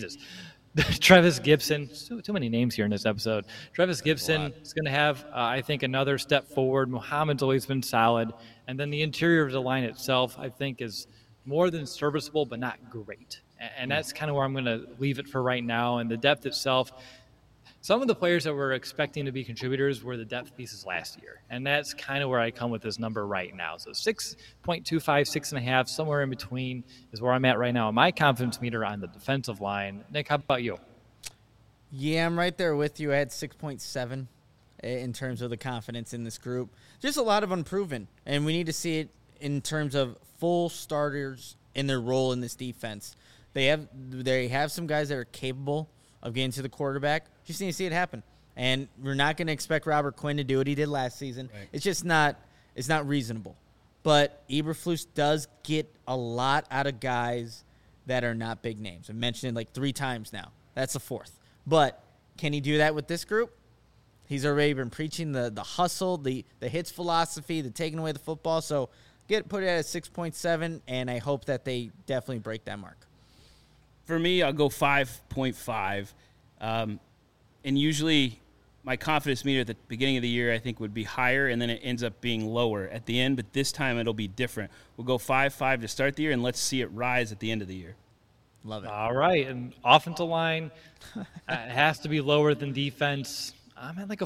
Trevis Gibson. Too many names here in this episode. Trevis Gibson is going to have, I think, another step forward. Muhammad's always been solid. And then the interior of the line itself, I think, is more than serviceable, but not great. And that's kind of where I'm going to leave it for right now. And the depth itself, some of the players that we're expecting to be contributors were the depth pieces last year. And that's kind of where I come with this number right now. So 6.25, 6.5, somewhere in between is where I'm at right now. My confidence meter on the defensive line. Nick, how about you? Yeah, I'm right there with you. I had 6.7 in terms of the confidence in this group. Just a lot of unproven. And we need to see it in terms of full starters in their role in this defense. They have some guys that are capable of getting to the quarterback. Just need to see it happen. And we're not going to expect Robert Quinn to do what he did last season. Right. It's just not reasonable. But Eberflus does get a lot out of guys that are not big names. I've mentioned it like 3 times now. That's the 4th. But can he do that with this group? He's already been preaching the hustle, the hits philosophy, the taking away the football. So put it at a 6.7, and I hope that they definitely break that mark. For me, I'll go 5.5. And usually my confidence meter at the beginning of the year, I think, would be higher, and then it ends up being lower at the end. But this time it'll be different. We'll go 5-5 to start the year, and let's see it rise at the end of the year. Love it. All right. And offensive line has to be lower than defense. I'm at like a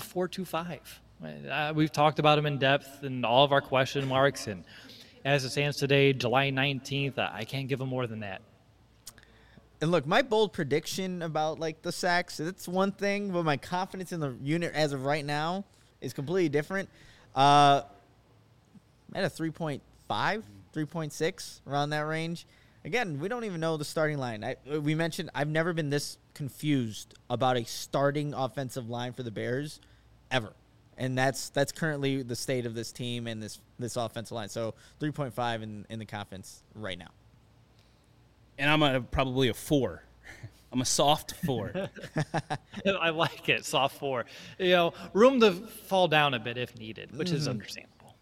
4.25. We've talked about him in depth in all of our question marks. And as it stands today, July 19th, I can't give him more than that. And look, my bold prediction about like the sacks, that's one thing, but my confidence in the unit as of right now is completely different. At a 3.5, 3.6, around that range. Again, we don't even know the starting line. We mentioned I've never been this confused about a starting offensive line for the Bears ever. And that's currently the state of this team and this offensive line. So 3.5 in the confidence right now. And I'm probably a 4. I'm a soft 4. I like it, soft 4. Room to fall down a bit if needed, which is understandable.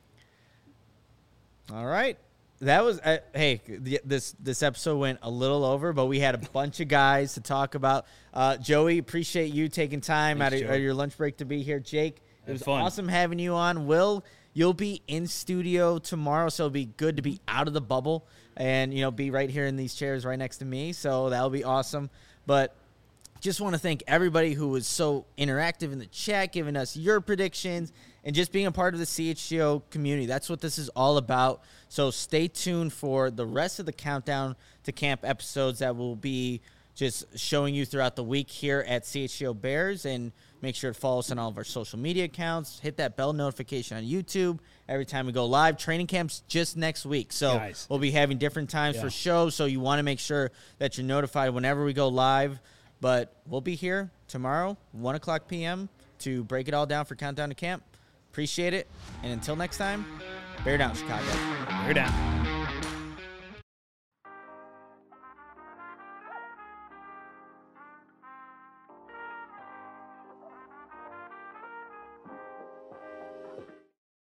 All right. That was this episode went a little over, but we had a bunch of guys to talk about. Joey, appreciate you taking time out of your lunch break to be here. Jake, it was awesome having you on. Will, you'll be in studio tomorrow, so it'll be good to be out of the bubble and be right here in these chairs right next to me. So that'll be awesome. But just want to thank everybody who was so interactive in the chat, giving us your predictions, and just being a part of the CHGO community. That's what this is all about. So stay tuned for the rest of the Countdown to Camp episodes that will be just showing you throughout the week here at CHGO Bears. And make sure to follow us on all of our social media accounts. Hit that bell notification on YouTube every time we go live. Training camp's just next week. So we'll be having different times for shows. So you want to make sure that you're notified whenever we go live. But we'll be here tomorrow, 1 o'clock p.m., to break it all down for Countdown to Camp. Appreciate it. And until next time, bear down, Chicago. Bear down.